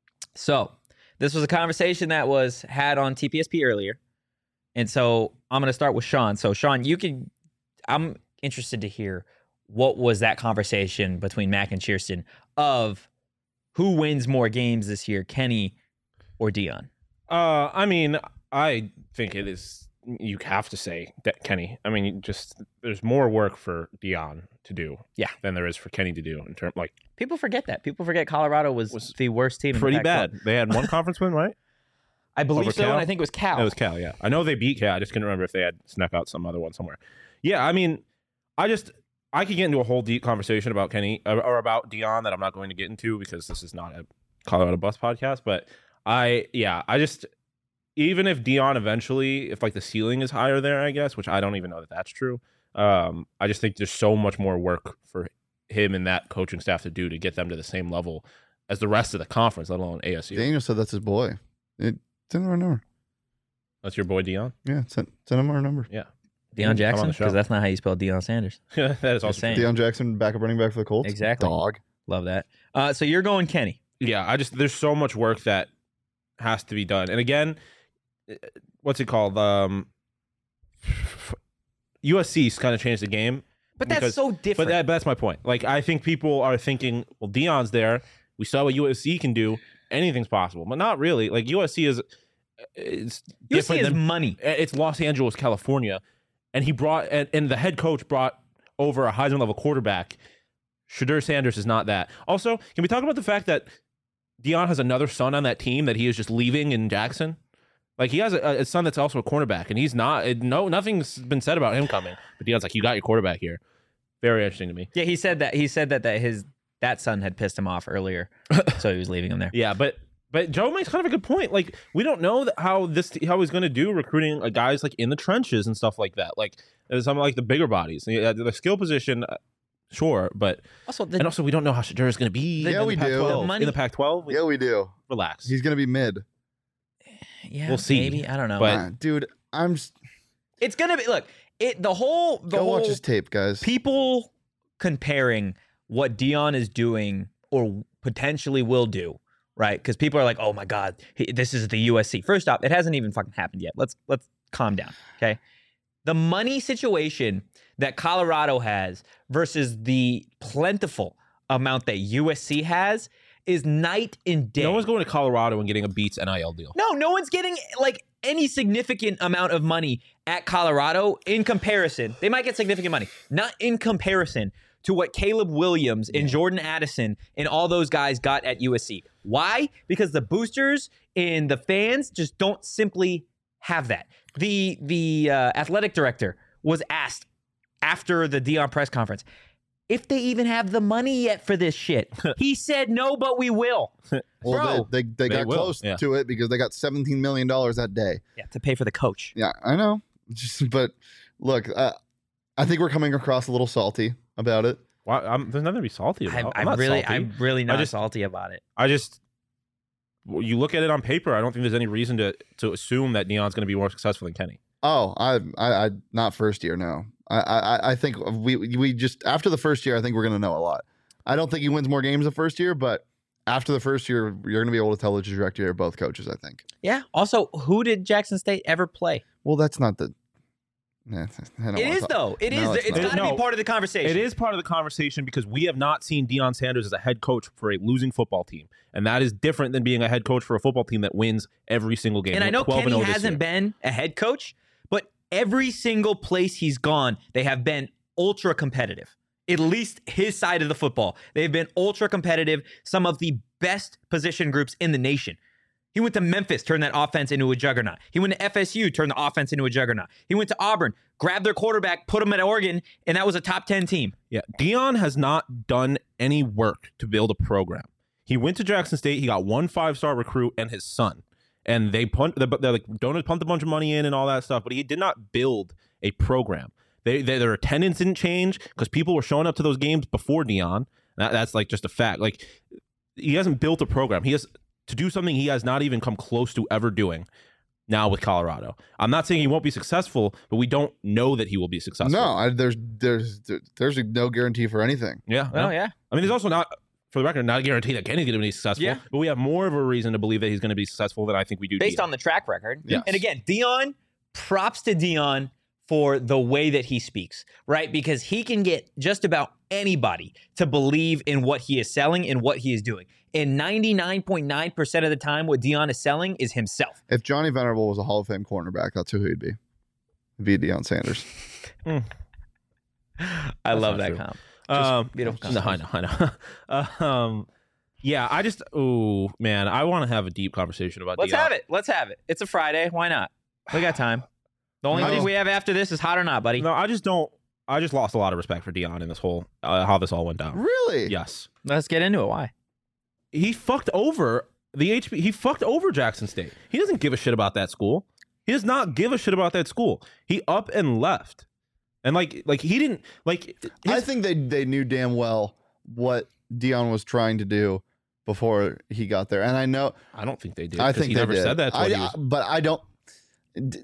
A: So this was a conversation that was had on T P S P earlier. And so I'm going to start with Sean. So Sean, you can, I'm interested to hear what was that conversation between Mac and Cheerston of who wins more games this year, Kenny or Deion?
C: Uh, I mean, I think it is, you have to say that Kenny. I mean, you just, there's more work for Deion to do
A: Yeah.
C: than there is for Kenny to do in terms, like,
A: People forget that. People forget Colorado was,
C: Was
A: the worst team in
C: pretty
A: the Pac twelve.
C: bad. They had one conference win, right?
A: I believe
C: Over
A: so,
C: Cal?
A: and I think it was Cal.
C: It was Cal, yeah. I know they beat Cal. I just couldn't remember if they had snuck out some other one somewhere. Yeah, I mean, I just, I could get into a whole deep conversation about Kenny or, or about Deion that I'm not going to get into because this is not a Colorado Bus podcast. But I, yeah, I just, even if Deion eventually, if like the ceiling is higher there, I guess, which I don't even know that that's true. Um, I just think there's so much more work for him and that coaching staff to do to get them to the same level as the rest of the conference, let alone A S U.
B: Daniel said that's his boy. It, send him our number.
C: That's your boy Deion?
B: Yeah, send, send him our number.
C: Yeah.
A: Deion
C: Come on
A: Jackson?
C: the show.
A: Because that's not how you spell Deion Sanders.
C: that is also
A: Just saying.
B: Deion Jackson, backup running back for the Colts.
A: Exactly.
B: Dog.
A: Love that. Uh, so you're going Kenny.
C: Yeah, I just there's so much work that has to be done. And again, what's it called? Um, U S C's kind of changed the game.
A: But that's
C: because-
A: so
C: But
A: different.
C: that, that's my point. Like, I think people are thinking, well, Deion's there. We saw what U S C can do. Anything's possible, but not really. Like U S C is, it's
A: U S C
C: different
A: is
C: than
A: money.
C: it's Los Angeles, California, and he brought and, and the head coach brought over a Heisman level quarterback. Shadur Sanders is not that. Also, can we talk about the fact that Deion has another son on that team that he is just leaving in Jackson? Like he has a, a son that's also a cornerback, and he's not. It, no, nothing's been said about him coming. But Deion's like, you got your quarterback here. Very interesting to me.
A: Yeah, he said that. He said that that his that son had pissed him off earlier, so he was leaving him there.
C: Yeah, but but Joe makes kind of a good point. Like we don't know that how this how he's going to do recruiting uh, guys like in the trenches and stuff like that. Like uh, some like the bigger bodies, the, the skill position. Uh, Sure, but
A: Also, the,
C: and also we don't know how Shadur is going to be.
A: The-
C: in
B: Yeah, we
C: the
B: do.
C: Pac twelve.
A: The money-
C: in the Pac twelve.
B: Yeah, we do.
C: Relax.
B: He's gonna be mid.
A: yeah,
C: we'll see.
A: Maybe I don't know.
C: But-
B: Ah, dude, I'm. Just,
A: It's gonna be look. It the whole the
B: go
A: whole
B: watch his tape, guys.
A: people comparing what Deion is doing or potentially will do, right? Because people are like, "Oh my God, he, this is the U S C." First off, it hasn't even fucking happened yet. Let's let's calm down, okay? The money situation that Colorado has versus the plentiful amount that U S C has is night and day.
C: No one's going to Colorado and getting a Beats N I L deal.
A: No, no one's getting like any significant amount of money at Colorado in comparison. They might get significant money, not in comparison to what Caleb Williams and Jordan Addison and all those guys got at U S C. Why? Because the boosters and the fans just don't simply have that. The the uh, athletic director was asked after the Deion press conference if they even have the money yet for this shit. He said, no, but we will.
B: Well,
A: Bro.
B: they, they, they,
C: They
B: got
C: will,
B: close
C: yeah.
B: to it because they got seventeen million dollars that day.
A: Yeah, to pay for the coach.
B: Yeah, I know. Just, but look, uh, I think we're coming across a little salty about it.
C: Why, I'm, there's nothing to be salty about.
A: I'm,
C: I'm
A: I'm
C: not
A: really,
C: salty.
A: I'm really not
C: just-
A: salty about it.
C: I just, well, you look at it on paper. I don't think there's any reason to to assume that Deion's going to be more successful than Kenny.
B: Oh, I, I, I not first year. No, I, I, I think we, we just after the first year, I think we're gonna know a lot. I don't think he wins more games the first year, but after the first year, you're gonna be able to tell the trajectory of both coaches. I think.
A: Yeah. Also, who did Jackson State ever play?
B: Well, that's not the. Nah, I don't
A: It
B: wanna
A: is,
B: talk-
A: though. It is.
B: No,
A: It's
B: it's
A: got
B: not.
A: to
C: No.
A: be part of the conversation.
C: It is part of the conversation because we have not seen Deion Sanders as a head coach for a losing football team, and that is different than being a head coach for a football team that wins every single game.
A: And I know
C: twelve
A: Kenny
C: and oh this
A: hasn't
C: year.
A: been a head coach, but every single place he's gone, they have been ultra competitive. At least his side of the football. They've been ultra competitive, some of the best position groups in the nation. He went to Memphis, turned that offense into a juggernaut. He went to F S U, turned the offense into a juggernaut. He went to Auburn, grabbed their quarterback, put him at Oregon, and that was a top ten team.
C: Yeah, Deion has not done any work to build a program. He went to Jackson State. He got one five-star recruit and his son, and they punt. They're like donors pumped a bunch of money in and all that stuff, but he did not build a program. They, they their attendance didn't change because people were showing up to those games before Deion. That, that's like just a fact. Like he hasn't built a program. He has to do something he has not even come close to ever doing. Now with Colorado, I'm not saying he won't be successful, but we don't know that he will be successful.
B: No, I, there's there's there's no guarantee for anything.
C: Yeah.
A: Oh, yeah.
C: I mean, there's also not, for the record, not a guarantee that Kenny's going to be successful.
A: Yeah.
C: But we have more of a reason to believe that he's going to be successful than I think we do.
A: Based
C: Deion.
A: on the track record.
C: Yes.
A: And again, Deion, props to Deion for the way that he speaks, right? Because he can get just about anybody to believe in what he is selling and what he is doing. And ninety-nine point nine percent of the time, what Deion is selling is himself.
B: If Johnny Venerable was a Hall of Fame cornerback, that's who he'd be. He'd be Deion Sanders.
A: I
C: That's
A: love
C: not
A: that
C: true.
A: comp.
C: um,
A: beautiful
C: No, I know, I know. uh, um, yeah, I just, oh man, I want to have a deep conversation about.
A: Let's
C: Deion.
A: have it. Let's have it. It's a Friday. Why not? We got time. The only
B: No.
A: thing we have after this is hot or not, buddy.
C: No, I just don't. I just lost a lot of respect for Deion in this whole uh, how this all went down.
B: Really?
C: Yes,
A: Let's get into it. Why?
C: he fucked over the H B. He fucked over Jackson State. He doesn't give a shit about that school. He does not give a shit about that school. He up and left, and like like he didn't like.
B: I
C: his-
B: think they they knew damn well what Deion was trying to do before he got there, and I know
C: I don't think they did.
B: I
C: 'cause
B: think
C: he
B: they
C: never
B: did.
C: said that's what
B: I,
C: he was.
B: but I don't. d-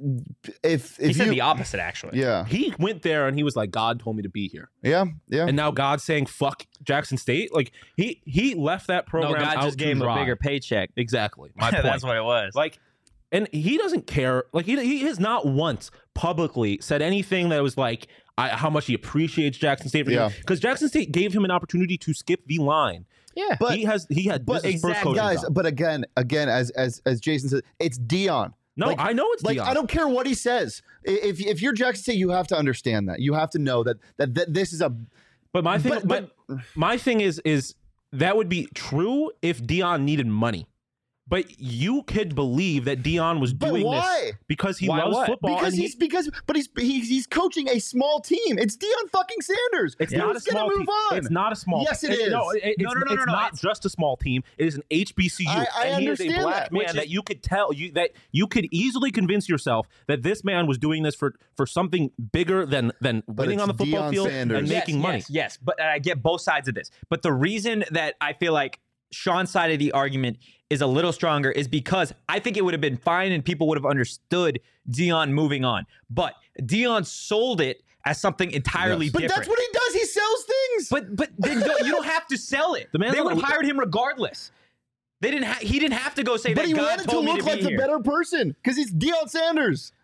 B: If if
A: He said
B: you,
A: the opposite, actually.
B: yeah,
C: He went there and he was like, God told me to be here.
B: yeah, yeah.
C: And now God's saying, fuck Jackson State. Like, he he left that
A: No,
C: program
A: God
C: out
A: just
C: to
A: gave him a
C: dry.
A: bigger paycheck.
C: Exactly. My point.
A: That's what it was.
C: Like, and he doesn't care. Like, he, he has not once publicly said anything that was like, I, how much he appreciates Jackson State.
B: Yeah.
C: Because Jackson State gave him an opportunity to skip the line.
A: yeah.
B: But-
C: he has, he had,
B: but
C: this is his first
A: exactly,
C: coaching
B: Guys,
C: job.
B: but again, again, as as as Jason said, it's Deion.
C: No,
B: like-
C: I know it's
B: Like
C: Deion.
B: I don't care what he says. I- If if you're Jackson State, you have to understand that. You have to know that that, that this is a.
C: But my thing,
B: But-
C: but, my thing is, is that would be true if Deion needed money. But you could believe that Deion was
B: But
C: doing
B: why?
C: this because he
A: Why
C: loves
A: what?
C: football.
B: Because
C: and he-
B: he's because but he's he's he's coaching a small team. It's Deion fucking Sanders.
C: It's
B: He
C: not a
B: was gonna
C: small
B: move
C: team.
B: on.
C: It's not a small.
B: Yes, it
C: it-
B: is.
C: No, it- it's,
A: No, no, no,
C: it's
A: no, no,
C: not
A: it's-
C: just a small team. It is an H B C U,
B: I- I
C: and he is a
B: understand
C: black
B: that,
C: man
A: which
C: that
A: is-
C: you could tell you that you could easily convince yourself that this man was doing this for for something bigger than than winning
B: it's
C: on the football
B: Deion
C: field
B: Sanders.
C: and
A: Yes,
C: making money.
A: Yes, yes, but I get both sides of this. But the reason that I feel like Sean's side of the argument is a little stronger is because I think it would have been fine and people would have understood Deion moving on. But Deion sold it as something entirely
B: Yes. But
A: different.
B: that's what he does. He sells things.
A: But but then you don't, you don't have to sell it.
C: The man's
A: They would have
C: not-
A: hired him regardless. They didn't. Ha- he didn't have to go say
B: But
A: that.
B: he
A: God
B: wanted to
A: told me
B: look
A: to be
B: like the
A: here.
B: better person because he's Deion Sanders.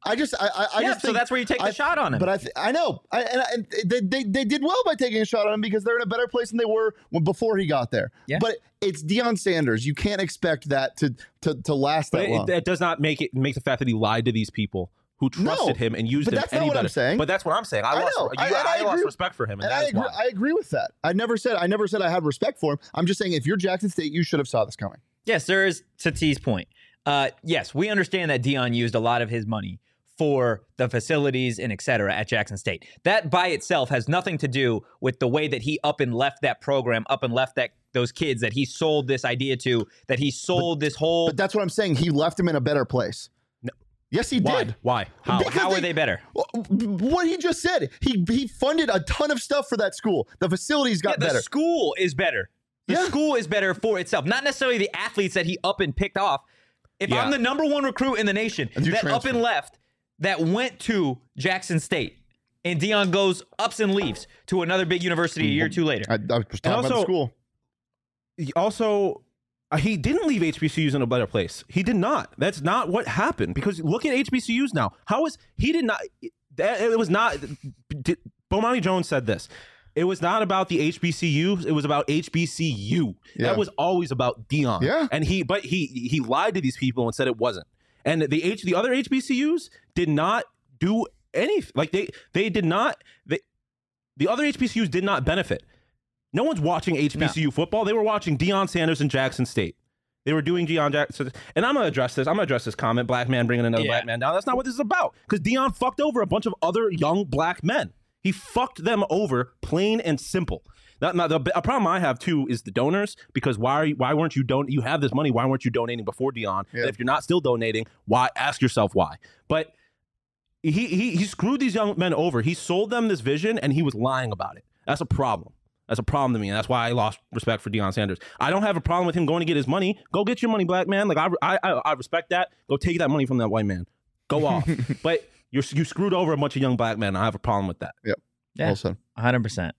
B: I just, I, I, I
A: yeah,
B: just
A: so
B: think,
A: that's where you take the
B: I-
A: shot on him.
B: But I, th- I know, I, and, I, and they, they, they did well by taking a shot on him because they're in a better place than they were when before he got there.
A: Yeah.
B: But it's Deion Sanders. You can't expect that to to, to last
C: But
B: that
C: it,
B: long.
C: that does not make it make the fact that he lied to these people who trusted
B: No,
C: him and used
B: but
C: him
B: that's
C: any
B: not what
C: better.
B: I'm saying.
C: But that's what I'm saying. I,
B: I
C: lost,
B: know.
C: you,
B: I- and
C: I,
B: I
C: lost
B: agree-
C: respect for him, and,
B: and
C: that
B: I
C: is
B: agree,
C: why.
B: I agree with that. I never said I never said I had respect for him. I'm just saying if you're Jackson State, you should have saw this coming.
A: Yes, there is to T's point. Uh, yes, we understand that Deion used a lot of his money for the facilities and et cetera at Jackson State. That by itself has nothing to do with the way that he up and left that program, up and left that those kids that he sold this idea to, that he sold this whole.
B: But that's what I'm saying. He left him in a better place.
C: No.
B: Yes, he
C: Why?
B: did.
C: Why? How?
B: Because
A: How
B: they-
A: are they better?
B: What he just said. He he funded a ton of stuff for that school. The facilities got
A: Yeah, the
B: better.
A: school is better. The
B: Yeah.
A: school is better for itself, not necessarily the athletes that he up and picked off. If
C: Yeah.
A: I'm the number one recruit in the nation
B: And you
A: that up
B: transfer.
A: and left, that went to Jackson State, and Deion goes ups and leaves to another big university a year or two later.
B: I, I was talking about the
C: also-
B: school.
C: He also, uh, he didn't leave H B C Us in a better place. He did not. That's not what happened. Because look at H B C Us now. How is he did not? That it was not. Did, Bomani Jones said this. It was not about the H B C Us. It was about H B C U.
B: Yeah.
C: That was always about Deion.
B: Yeah.
C: And he, but he he lied to these people and said it wasn't. And the H the other H B C Us did not do anything. Like they they did not. They, the other H B C Us did not benefit. No one's watching H B C U football. They were watching Deion Sanders and Jackson State. They were doing Deion Jackson. And I'm going to address this. I'm going to address this comment. Black man bringing another
A: Yeah.
C: black man down. That's not what this is about. Because Deion fucked over a bunch of other young black men. He fucked them over, plain and simple. Now, now the a problem I have too is the donors. Because why are you, why weren't you don? You have this money. Why weren't you donating before Deion?
B: Yeah.
C: And if you're not still donating, why? Ask yourself why. But he he he screwed these young men over. He sold them this vision, and he was lying about it. That's a problem. That's a problem to me, and that's why I lost respect for Deion Sanders. I don't have a problem with him going to get his money. Go get your money, black man. Like I, I, I I respect that. Go take that money from that white man. Go off. But you're you screwed over a bunch of young black men. I have a problem with that.
A: Yeah.
B: Well said.
A: one hundred percent.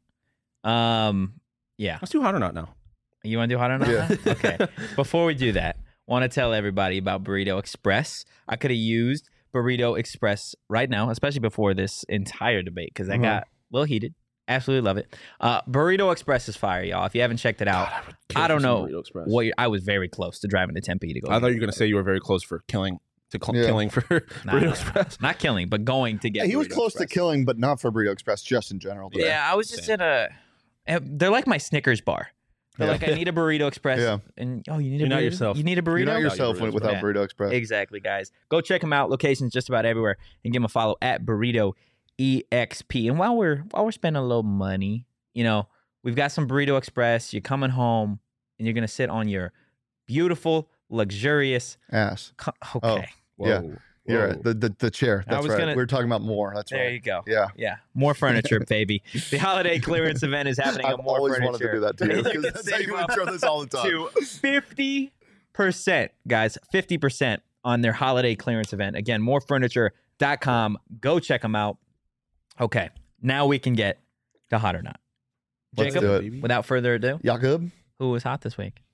A: Um, yeah.
C: Let's do hot or not now.
A: You want to do hot or not?
B: Yeah.
A: Okay. Before we do that, want to tell everybody about Burrito Express. I could have used Burrito Express right now, especially before this entire debate, because I
B: Mhm.
A: got a little heated. Absolutely love it. Uh, Burrito Express is fire, y'all. If you haven't checked it out,
C: God, I would kill
A: I
C: for
A: don't
C: some
A: know
C: Burrito Express.
A: what you're, I was very close to driving to Tempe to go.
C: I
A: get
C: thought you were going to say you were very close for killing to cl-
B: Yeah.
C: killing for
A: Nah,
C: Burrito
A: nah,
C: Express.
A: not killing, but going to get.
B: Yeah, he was
A: Burrito
B: close
A: Express.
B: to killing, but not for Burrito Express, just in general. today.
A: Yeah, I was just
C: Same.
A: in a. eh, They're like my Snickers bar. They're
B: Yeah.
A: like, I need a Burrito Express.
B: Yeah.
A: And oh, you need a
C: You're
A: burrito.
C: not yourself.
A: You need a burrito.
B: You're not
C: Burrito
B: yourself when, without
A: Yeah.
B: Burrito Express.
A: Exactly, guys. Go check them out. Locations just about everywhere, and give them a follow at Burrito E X P. And while we're while we're spending a little money, you know, we've got some Burrito Express. You're coming home, and you're gonna sit on your beautiful, luxurious.
B: Ass.
A: Co- okay,
B: Yeah.
C: Whoa.
B: You're
C: Whoa.
B: right. The, the the chair.
A: I
B: That's
A: was
B: right.
A: gonna-
B: We were talking about more. That's
A: there
B: right.
A: you go.
B: Yeah.
A: Yeah, more furniture, baby. The holiday clearance event is happening.
B: I've
A: on more
B: always
A: furniture.
B: wanted to do that too.
A: You're
B: Because
A: gonna
B: that's how
A: save
B: you
A: up
B: intro this all the time.
A: to fifty percent, guys. fifty percent on their holiday clearance event. Again, more furniture dot com. Go check them out. Okay, now we can get to hot or not.
B: Let's
A: Jacob,
B: do it.
A: without further ado,
B: Jakob?
A: who was hot this week?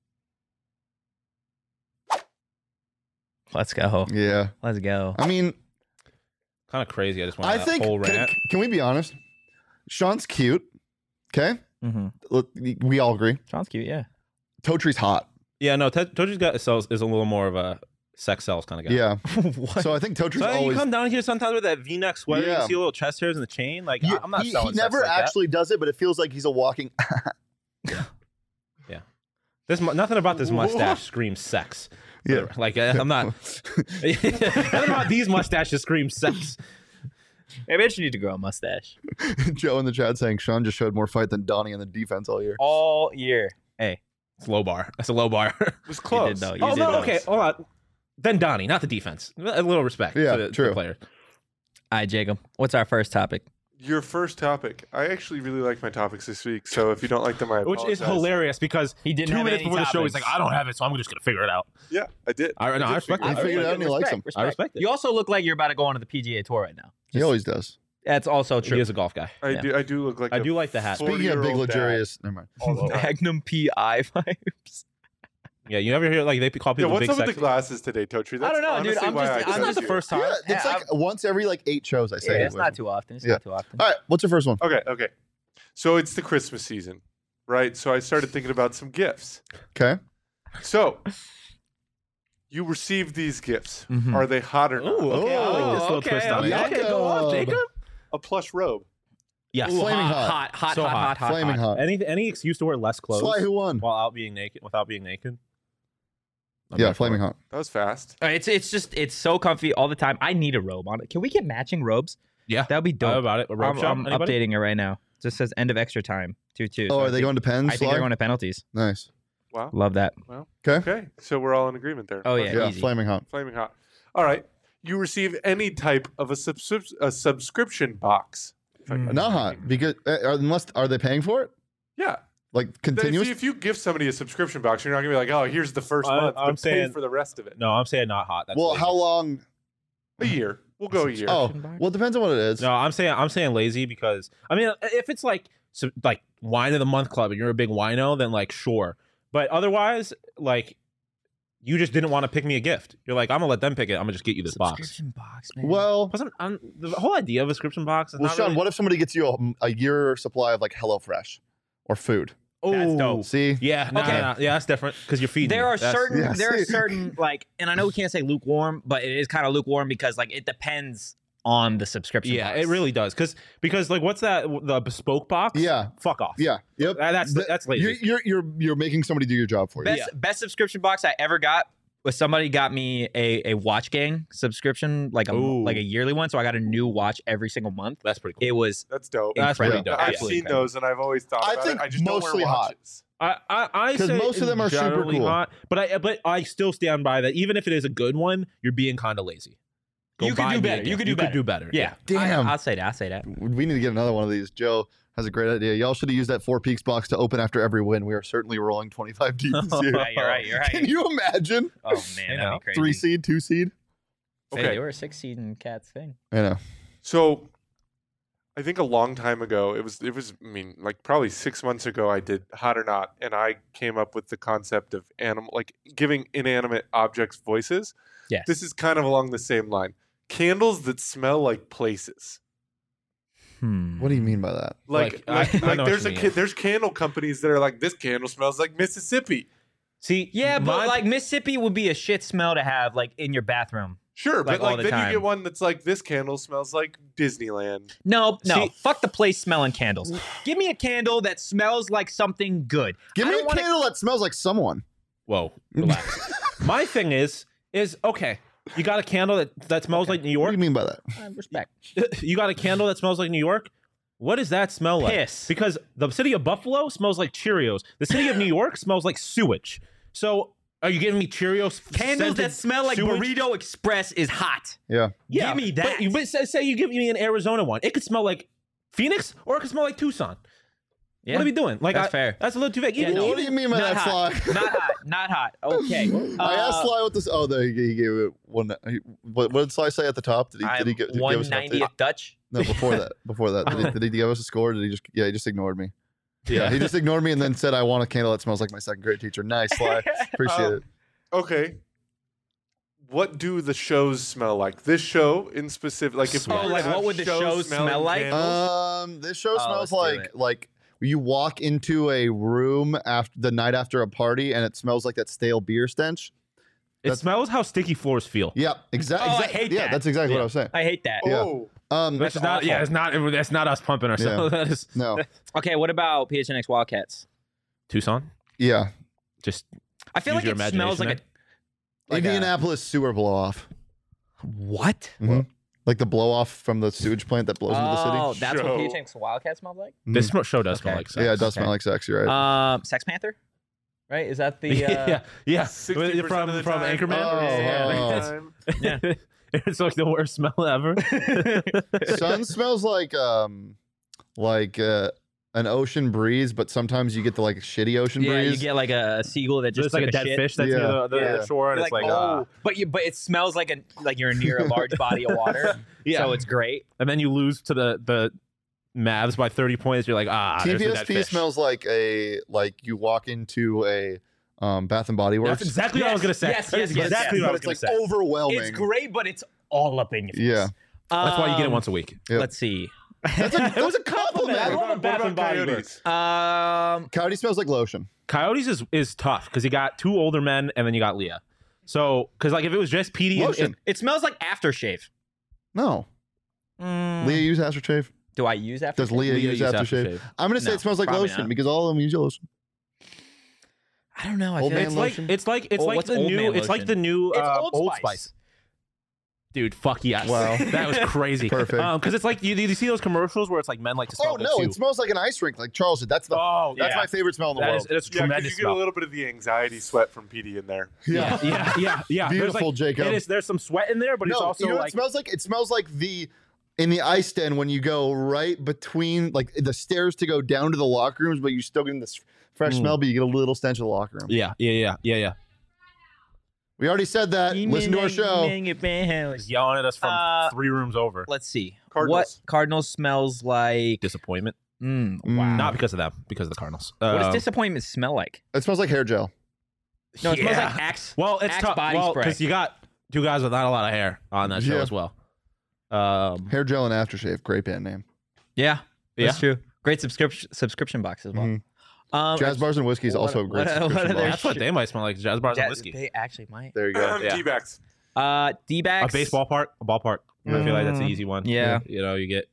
A: Let's go.
B: Yeah.
A: Let's go.
B: I mean,
C: Kind of crazy. I just want
B: I
C: that
B: think.
C: whole
B: Can,
C: rant.
B: can we be honest? Sean's cute. Okay.
A: Mm-hmm.
B: Look, we all agree.
A: Sean's cute, yeah.
B: Totree's hot.
C: Yeah, no, Te- Toji's got sells is a little more of a sex sells kind of guy.
B: Yeah.
A: What?
B: So I think Totree's
C: So you
B: always.
C: come down here sometimes with that V-neck sweater,
B: Yeah.
C: you see a little chest hairs and the chain. Like
B: He-
C: I'm not
B: he,
C: selling
B: he
C: sex
B: never
C: like that.
B: actually does it, but it feels like he's a walking.
C: This mu- nothing about this mustache screams sex.
B: Yeah.
C: Like uh, I'm not. Nothing about these mustaches screams sex.
A: Maybe I should need to grow a mustache
B: Joe in the chat saying Sean just showed more fight than Donnie in the defense all year.
A: all year. Hey,
C: It's low bar. That's a low bar.
D: It was
A: you
D: close.
A: did though. You
C: oh
A: did
C: no,
A: though.
C: okay, hold on. Then Donnie, not the defense. A little respect.
B: Yeah,
C: to the, to
B: true.
C: the players.
A: All right, Jacob. What's our first topic?
D: Your first topic. I actually really like my topics this week, so if you don't like them, I
C: Which
D: apologize.
C: is hilarious because
A: He didn't
C: two
A: have
C: minutes
A: any
C: before the show, he's like,
A: topics.
C: "I don't have it, so I'm just gonna figure it out."
D: Yeah, I did.
C: I, no,
D: did
C: I respect
D: figure
C: it.
B: He figured it out and he likes him.
C: I respect it.
A: You also look like you're about to go on to the P G A Tour right now.
B: He always does.
A: That's also true.
C: He is a golf guy.
D: I
A: Yeah.
D: do. I do look like.
C: I
D: a
C: do like the hat.
B: Speaking of big
D: forty-year-old dad
B: luxurious, never mind.
D: all the time.
A: Magnum P I vibes.
C: Yeah, you ever hear like they call
D: Yeah,
C: people
D: what's
C: big
D: up with
C: sexy?
D: the glasses today, Totri? That's
A: I don't know, dude.
D: honestly
A: I'm
D: why
A: just-
D: I
A: I'm
C: It's
D: chose
C: not the
D: you.
C: first time.
B: Yeah, it's
A: Yeah,
B: like once every like eight shows I say.
A: Yeah,
B: it
A: it's
B: with
A: not
B: him.
A: too often. It's
B: Yeah.
A: not too often.
B: All right, what's your first one?
D: Okay, okay. So it's the Christmas season, right? So I started thinking about some gifts.
B: Okay.
D: So you received these gifts.
A: Mhm.
D: Are they hot or not?
C: Ooh, okay, I like this little
A: okay,
C: twist on it.
B: okay.
C: Okay, go on, Jacob.
D: A plush robe.
C: Yes.
A: Ooh,
B: Flaming
A: hot,
B: hot.
A: hot, hot,
C: So
A: hot,
C: hot.
A: hot, hot,
B: Flaming hot.
C: Any any excuse to wear less clothes
B: Sly, who won?
C: while out being naked without being naked. I'm
B: Yeah,
C: there for
B: flaming
C: it.
B: hot.
D: That was fast.
A: Uh, It's it's just it's so comfy all the time. I need a robe on it. Can we get matching robes?
C: Yeah.
A: That would be
C: How
A: dope.
C: about it? A robe
A: I'm,
C: shop?
A: I'm
C: Anybody?
A: updating it right now. It just says end of extra time. Two two.
B: Oh,
A: So I
B: are they
A: think-
B: going to pens?
A: I think
B: Sly?
A: they're going to penalties.
B: Nice.
D: Wow.
A: Love that.
B: Okay.
D: Okay, so we're all in agreement there.
A: Oh, yeah.
B: Yeah,
A: easy.
B: flaming hot.
D: Flaming hot. All right. You receive any type of a, subscrip- a subscription box. If I-
A: Mm.
B: Not hot because uh, are- unless are they paying for it?
D: Yeah.
B: Like
D: Then If
B: continuous?
D: you, if you give somebody a subscription box, you're not gonna be like, oh, here's the first
C: I-
D: month,
C: I'm
D: but pay
C: saying-
D: for the rest of it.
C: No, I'm saying not hot. That's
B: well,
C: lazy.
B: how long?
D: A year. We'll go a year.
B: Oh,
A: Subscription box?
B: well, it depends on what it is.
C: No, I'm saying I'm saying lazy because I mean if it's like so, like wine of the month club and you're a big wino, then like sure. But otherwise, like you just didn't want to pick me a gift. You're like, I'm gonna let them pick it. I'm gonna just get you this box.
A: Subscription box, man.
B: Well,
C: Plus, I'm, I'm, the whole idea of a subscription box is
B: well,
C: not
B: Sean,
C: really...
B: what if somebody gets you a, a year supply of like HelloFresh or food?
A: That's dope.
C: Ooh.
B: See?
C: Yeah, no,
A: Okay.
C: no, no. Yeah, that's different because you're feeding.
A: there
C: me.
A: are
C: That's-
A: certain
B: Yeah,
A: there are
B: see?
A: certain like, and I know we can't say lukewarm, but it is kind of lukewarm because like it depends on the subscription.
C: Yeah,
A: box.
C: it really does. Because because like what's that? The bespoke box?
B: Yeah.
C: Fuck off.
B: Yeah. Yep.
C: That- that's
B: Th-
C: that's lazy.
B: You're, you're you're you're making somebody do your job for you.
A: Best
C: Yeah.
A: best subscription box I ever got was somebody got me a a Watch Gang subscription, like a
C: Ooh.
A: like a yearly one, so I got a new watch every single month.
C: That's pretty cool.
A: It was
D: That's dope.
C: That's pretty
A: incredible.
C: dope.
D: I've
C: Yeah.
A: Absolutely
D: seen
A: incredible.
D: those and I've always thought
B: I
D: about
B: think
D: it. I just don't
B: mostly
D: wear
B: hot.
D: watches.
C: I I, I
B: 'Cause
C: say
B: most of them are super
C: generally
B: cool.
C: hot, but I but I still stand by that. Even if it is a good one, you're being kind of lazy. Go
A: You could
C: buy
A: do
C: me a
A: better. You
C: gift.
A: could do
C: you
A: better.
C: could do better.
A: Yeah,
B: Damn.
A: I, I'll say that. I'll say that.
B: We need to get another one of these. Joe has a great idea. Y'all should have used that Four Peaks box to open after every win. We are certainly rolling twenty-five deep this year.
A: Yeah, you're right. You're right.
B: Can you imagine?
A: Oh
C: You
A: man,
C: know,
A: that'd be crazy.
B: Three seed, two seed?
A: Hey,
D: Okay.
A: they were a six seed in Cat's thing.
B: I know.
D: So, I think a long time ago, it was it was I mean like probably six months ago, I did Hot or Not, and I came up with the concept of animal like giving inanimate objects voices.
A: Yes.
D: This is kind of along the same line. Candles that smell like places.
A: Hmm.
B: What do you mean by that?
D: Like
C: Like, I-
D: like,
C: I know
D: like
C: what
D: there's
C: you
D: a
C: mean.
D: ca- there's candle companies that are like this candle smells like Mississippi.
C: See,
A: Yeah, but
C: my-
A: like Mississippi would be a shit smell to have like in your bathroom.
D: Sure,
A: Like,
D: but
A: all
D: like
A: the
D: then you
A: time.
D: get one that's like this candle smells like Disneyland.
A: No, no,
C: See-
A: fuck the place smelling candles. Give me a candle that smells like something good.
B: Give
A: I
B: me
A: don't
B: a
A: wanna-
B: candle that smells like someone.
C: whoa, relax. My thing is is okay. You got a candle that that smells like New
B: What do
C: York.
B: you mean by that?
A: Uh, respect.
C: You got a candle that smells like New York. What does that smell like?
A: Piss.
C: Because the city of Buffalo smells like Cheerios. The city of New York smells like sewage. So are you giving me Cheerios?
A: Candles
C: scented
A: that smell like
C: sewage?
A: Burrito Express is hot.
B: Yeah.
C: Yeah,
A: Give me
C: but
A: that.
C: you- But, say, say you give me an Arizona one. It could smell like Phoenix or it could smell like Tucson.
A: Yeah.
C: What are we doing? Like
A: That's
C: I-
A: fair.
C: That's a little too vague.
A: Yeah,
C: Even,
A: no.
B: What do you mean by
A: Not
B: that,
A: hot.
B: Sly?
A: Not hot. Not hot. Okay.
B: I asked
A: Uh,
B: Sly what this. Oh, there he, he gave it one. He, what, what did Sly say at the top? Did he? Did he,
A: I'm
B: gi- did he give
A: one
B: us an update?
A: ninetieth Dutch.
B: No, before that. Before that, did he, did he give us a score? Or did he just? Yeah, he just ignored me.
C: yeah.
B: He just ignored me and then said, "I want a candle that smells like my second grade teacher." Nice, Sly. Appreciate
D: Um,
B: it.
D: Okay. What do the shows smell like? This show in specific, like if we
A: Oh,
D: were to
A: like,
D: have
A: what would the shows
D: smelling
A: smell like?
D: candles-
B: Um, this show
A: Oh,
B: smells
A: let's do
B: like
A: it.
B: like you walk into a room after the night after a party and it smells like that stale beer stench.
C: It
B: That's-
C: smells how sticky floors feel.
B: Yep, exactly.
A: Oh, I hate
B: yeah,
A: that.
B: that's exactly
C: Yeah.
B: what I was saying.
A: I hate that.
B: Yeah.
D: Oh,
B: Um,
C: That's
A: That's
C: not.
A: awful.
C: Yeah, it's not. That's not us pumping ourselves. That is
B: no,
A: Okay, what about P H N X Wildcats?
C: Tucson.
B: yeah,
C: Just
A: I feel
C: Use
A: like
C: your
A: it smells like a
C: imagination
A: like a-
B: Indianapolis sewer blow off,
A: what?
B: Mhm. like the blow off from the sewage plant that blows into the city.
A: Oh, that's what
D: Show.
A: P H N X Wildcats smells like.
B: Mhm.
C: this sm- show does smell
A: Okay.
C: like sex.
B: yeah, it does
A: Okay.
B: smell like sex. You're right.
A: Um, Sex Panther, right? Is that the? Uh,
C: yeah, yeah.
D: sixty percent
C: From
D: of the
C: from
D: time.
C: Anchorman.
B: Oh.
C: Yeah.
D: Time.
A: Yeah.
C: It's like the worst smell ever.
B: Sun smells like um, like uh, an ocean breeze, but sometimes you get the like shitty ocean
A: Yeah,
B: breeze.
A: you get like a seagull that just
C: Just like a
A: took
C: dead
A: shit.
C: fish that's
B: Yeah.
C: near the, the
A: Yeah.
C: shore, and
A: You're
C: it's
A: like,
C: like,
A: oh,
C: ah.
A: but you, but it smells like a like you're near a large body of water.
C: yeah.
A: So it's great.
C: and then you lose to the the Mavs by thirty points. You're like, ah, there's the dead
B: T P S P
C: fish.
B: smells like a like you walk into a um, Bath and Body Works.
C: That's exactly what I was
A: Yes,
C: gonna say.
A: yes,
C: That
A: yes,
C: is
A: yes,
C: exactly
A: yes.
C: what I
B: but
C: was
B: it's
C: gonna
B: like
C: say.
B: overwhelming.
A: It's great, but it's all up in your face.
B: Yeah.
C: That's why you get it
A: Um,
C: once a week.
B: Yep.
A: Let's see.
B: That's a,
C: It was a
B: compliment.
C: I
D: What
C: love
D: about,
C: a Bath
D: what
C: and
D: about
C: Body
D: Coyotes?
A: Um,
B: Coyote smells like lotion.
C: Coyotes is is tough because you got two older men and then you got Leah. So because like if it was just P D, and,
B: Lotion.
C: and,
A: it smells like aftershave.
B: No.
A: Mm,
B: Leah use aftershave?
A: do I use aftershave?
B: Does Leah,
C: Leah
B: use
C: use
B: aftershave?
C: aftershave.
B: I'm going to say
A: No,
B: it smells like
A: probably
B: lotion
A: not.
B: because all of them use lotion.
A: I don't know. I
B: Old
A: feel
B: man
C: it's
A: like
C: like
B: lotion?
C: it's like it's
A: Oh,
C: like
A: what's
C: the
A: Old
C: new
A: Man
C: it's like
A: lotion?
C: the new
A: It's
C: uh,
A: Old
C: Old
A: Spice.
C: Spice. Dude, fuck yes.
B: Wow.
C: That was crazy.
B: Perfect.
C: Um, because it's like you, you see those commercials where it's like men like to smell
B: Oh,
C: good
B: no.
C: too.
B: It smells like an ice rink, like Charles said. That's the
C: oh,
B: that's
C: yeah.
B: my favorite smell in the
C: That
B: world.
C: is it's
D: Yeah, because
C: tremendous
D: you get a
C: smell.
D: little bit of the anxiety sweat from P D in there.
B: yeah.
C: yeah, yeah, yeah. There's
B: Beautiful,
C: like,
B: Jacob.
C: It is. There's some sweat in there, but
B: no,
C: it's also
B: you know what
C: like
B: it smells like? It smells like the in the ice den when you go right between like the stairs to go down to the locker rooms, but you still get this fresh
C: Mm.
B: smell, but you get a little stench of the locker room.
C: yeah, yeah, yeah, yeah, yeah.
B: We already said that. Listen to our show.
C: He's yelling at us from
A: Uh,
C: three rooms over.
A: Let's see.
D: Cardinals.
A: What Cardinals smells like?
C: Disappointment.
A: Mm,
B: Mm.
A: wow.
C: Not because of them, because of the Cardinals.
A: what does
C: Um,
A: disappointment smell like?
B: It smells like hair gel.
A: No, it smells
C: yeah.
A: like Axe.
C: Well, it's
A: Axe
C: tough.
A: body
C: Well,
A: spray.
C: because you got two guys with not a lot of hair on that show
B: Yeah.
C: as well. Um,
B: Hair gel and aftershave. Great band name.
A: Yeah, that's
C: Yeah.
A: true. Great subscription subscription box as well.
B: Mhm.
A: Um,
B: Jazz bars and whiskey is
A: what-
B: also a great
A: what- what
B: subscription
A: are their
B: box.
C: that's what they might smell like: jazz bars
A: yeah,
C: and whiskey.
A: They actually might.
B: There you go.
C: Yeah.
D: D-backs.
A: Uh, D-backs.
C: A baseball park, a ballpark. I feel like that's an
A: Mm,
C: easy one.
A: yeah.
C: you know, you get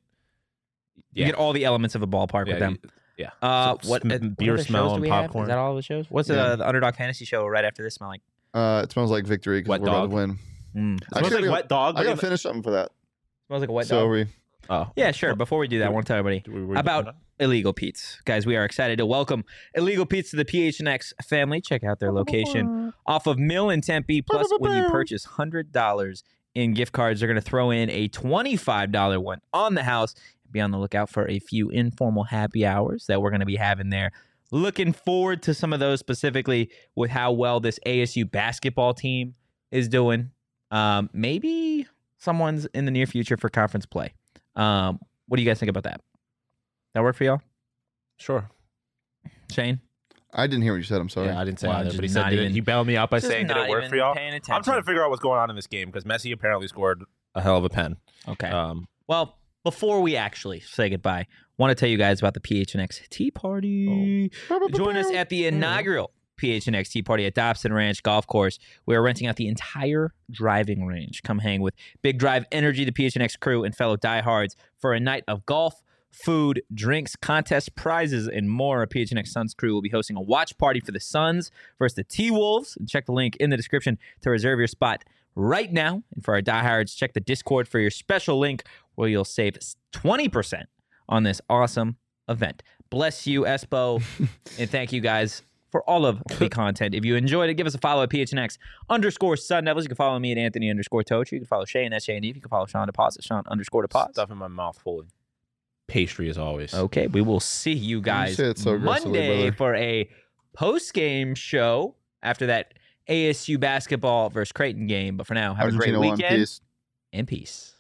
A: You get all the elements of a ballpark
C: yeah,
A: with them.
C: you- yeah.
A: Uh,
C: So,
A: what
C: sm-
A: uh,
C: beer
A: what other
C: smell
A: shows do
C: and
A: we have?
C: popcorn.
A: Is that all the shows? What's
B: Yeah.
A: the, the Underdog Fantasy show right after this smell like?
B: Uh, it smells like victory because
C: Wet
B: we're about
C: dog.
B: to win.
A: Mm.
C: It smells
B: Actually,
C: like
B: I
C: wet dog.
B: I
C: but
B: gotta
C: in-
B: finish something for that.
A: Smells like a wet
B: so
A: dog.
B: we
C: Oh,
A: Yeah, sure. Before we do that, I want to tell everybody
C: we- we-
A: about Illegal Pete's. Guys, we are excited to welcome Illegal Pete's to the P H N X family. Check out their location off of Mill in Tempe. Plus, when you purchase one hundred dollars in gift cards, they're going to throw in a twenty-five dollars one on the house. Be on the lookout for a few informal happy hours that we're going to be having there. Looking forward to some of those, specifically with how well this A S U basketball team is doing. Um, maybe someone's in the near future for conference play. Um, what do you guys think about that? That work for y'all?
C: Sure.
A: Shane?
B: I didn't hear what you said. I'm sorry.
C: Yeah, I didn't say
A: Well,
C: either,
A: just
C: but he said
A: not
C: did it.
A: even-
C: He bailed me out by
A: Just
C: saying, "Did
A: not
C: it work
A: even
C: for y'all?"
A: paying
C: I'm trying
A: attention.
C: to figure out what's going on in this game because Messi apparently scored a hell of a pen.
A: Okay.
C: Um,
A: Well, before we actually say goodbye, want to tell you guys about the P H N X Tea Party. Join us at the inaugural P H N X Tea Party at Dobson Ranch Golf Course. We are renting out the entire driving range. Come hang with Big Drive Energy, the P H N X crew, and fellow diehards for a night of golf, food, drinks, contests, prizes, and more. Our P H N X Suns crew will be hosting a watch party for the Suns versus the T-Wolves. Check the link in the description to reserve your spot right now. And for our diehards, check the Discord for your special link where you'll save twenty percent on this awesome event. Bless you, Espo, and thank you guys for all of the content. If you enjoyed it, give us a follow at P H N X underscore Sun Devils. You can follow me at Anthony underscore Tochi. You can follow Shane at Shane Eve. You can follow Sean Deposit, Sean underscore Deposit.
C: stuff in my mouth full of pastry as always.
A: Okay, we will see you guys
B: say it so aggressively,
A: Monday
B: brother.
A: for a post-game show after that A S U basketball versus Creighton game. But for now, have a great
B: Argentina won.
A: weekend
B: Peace.
A: and peace.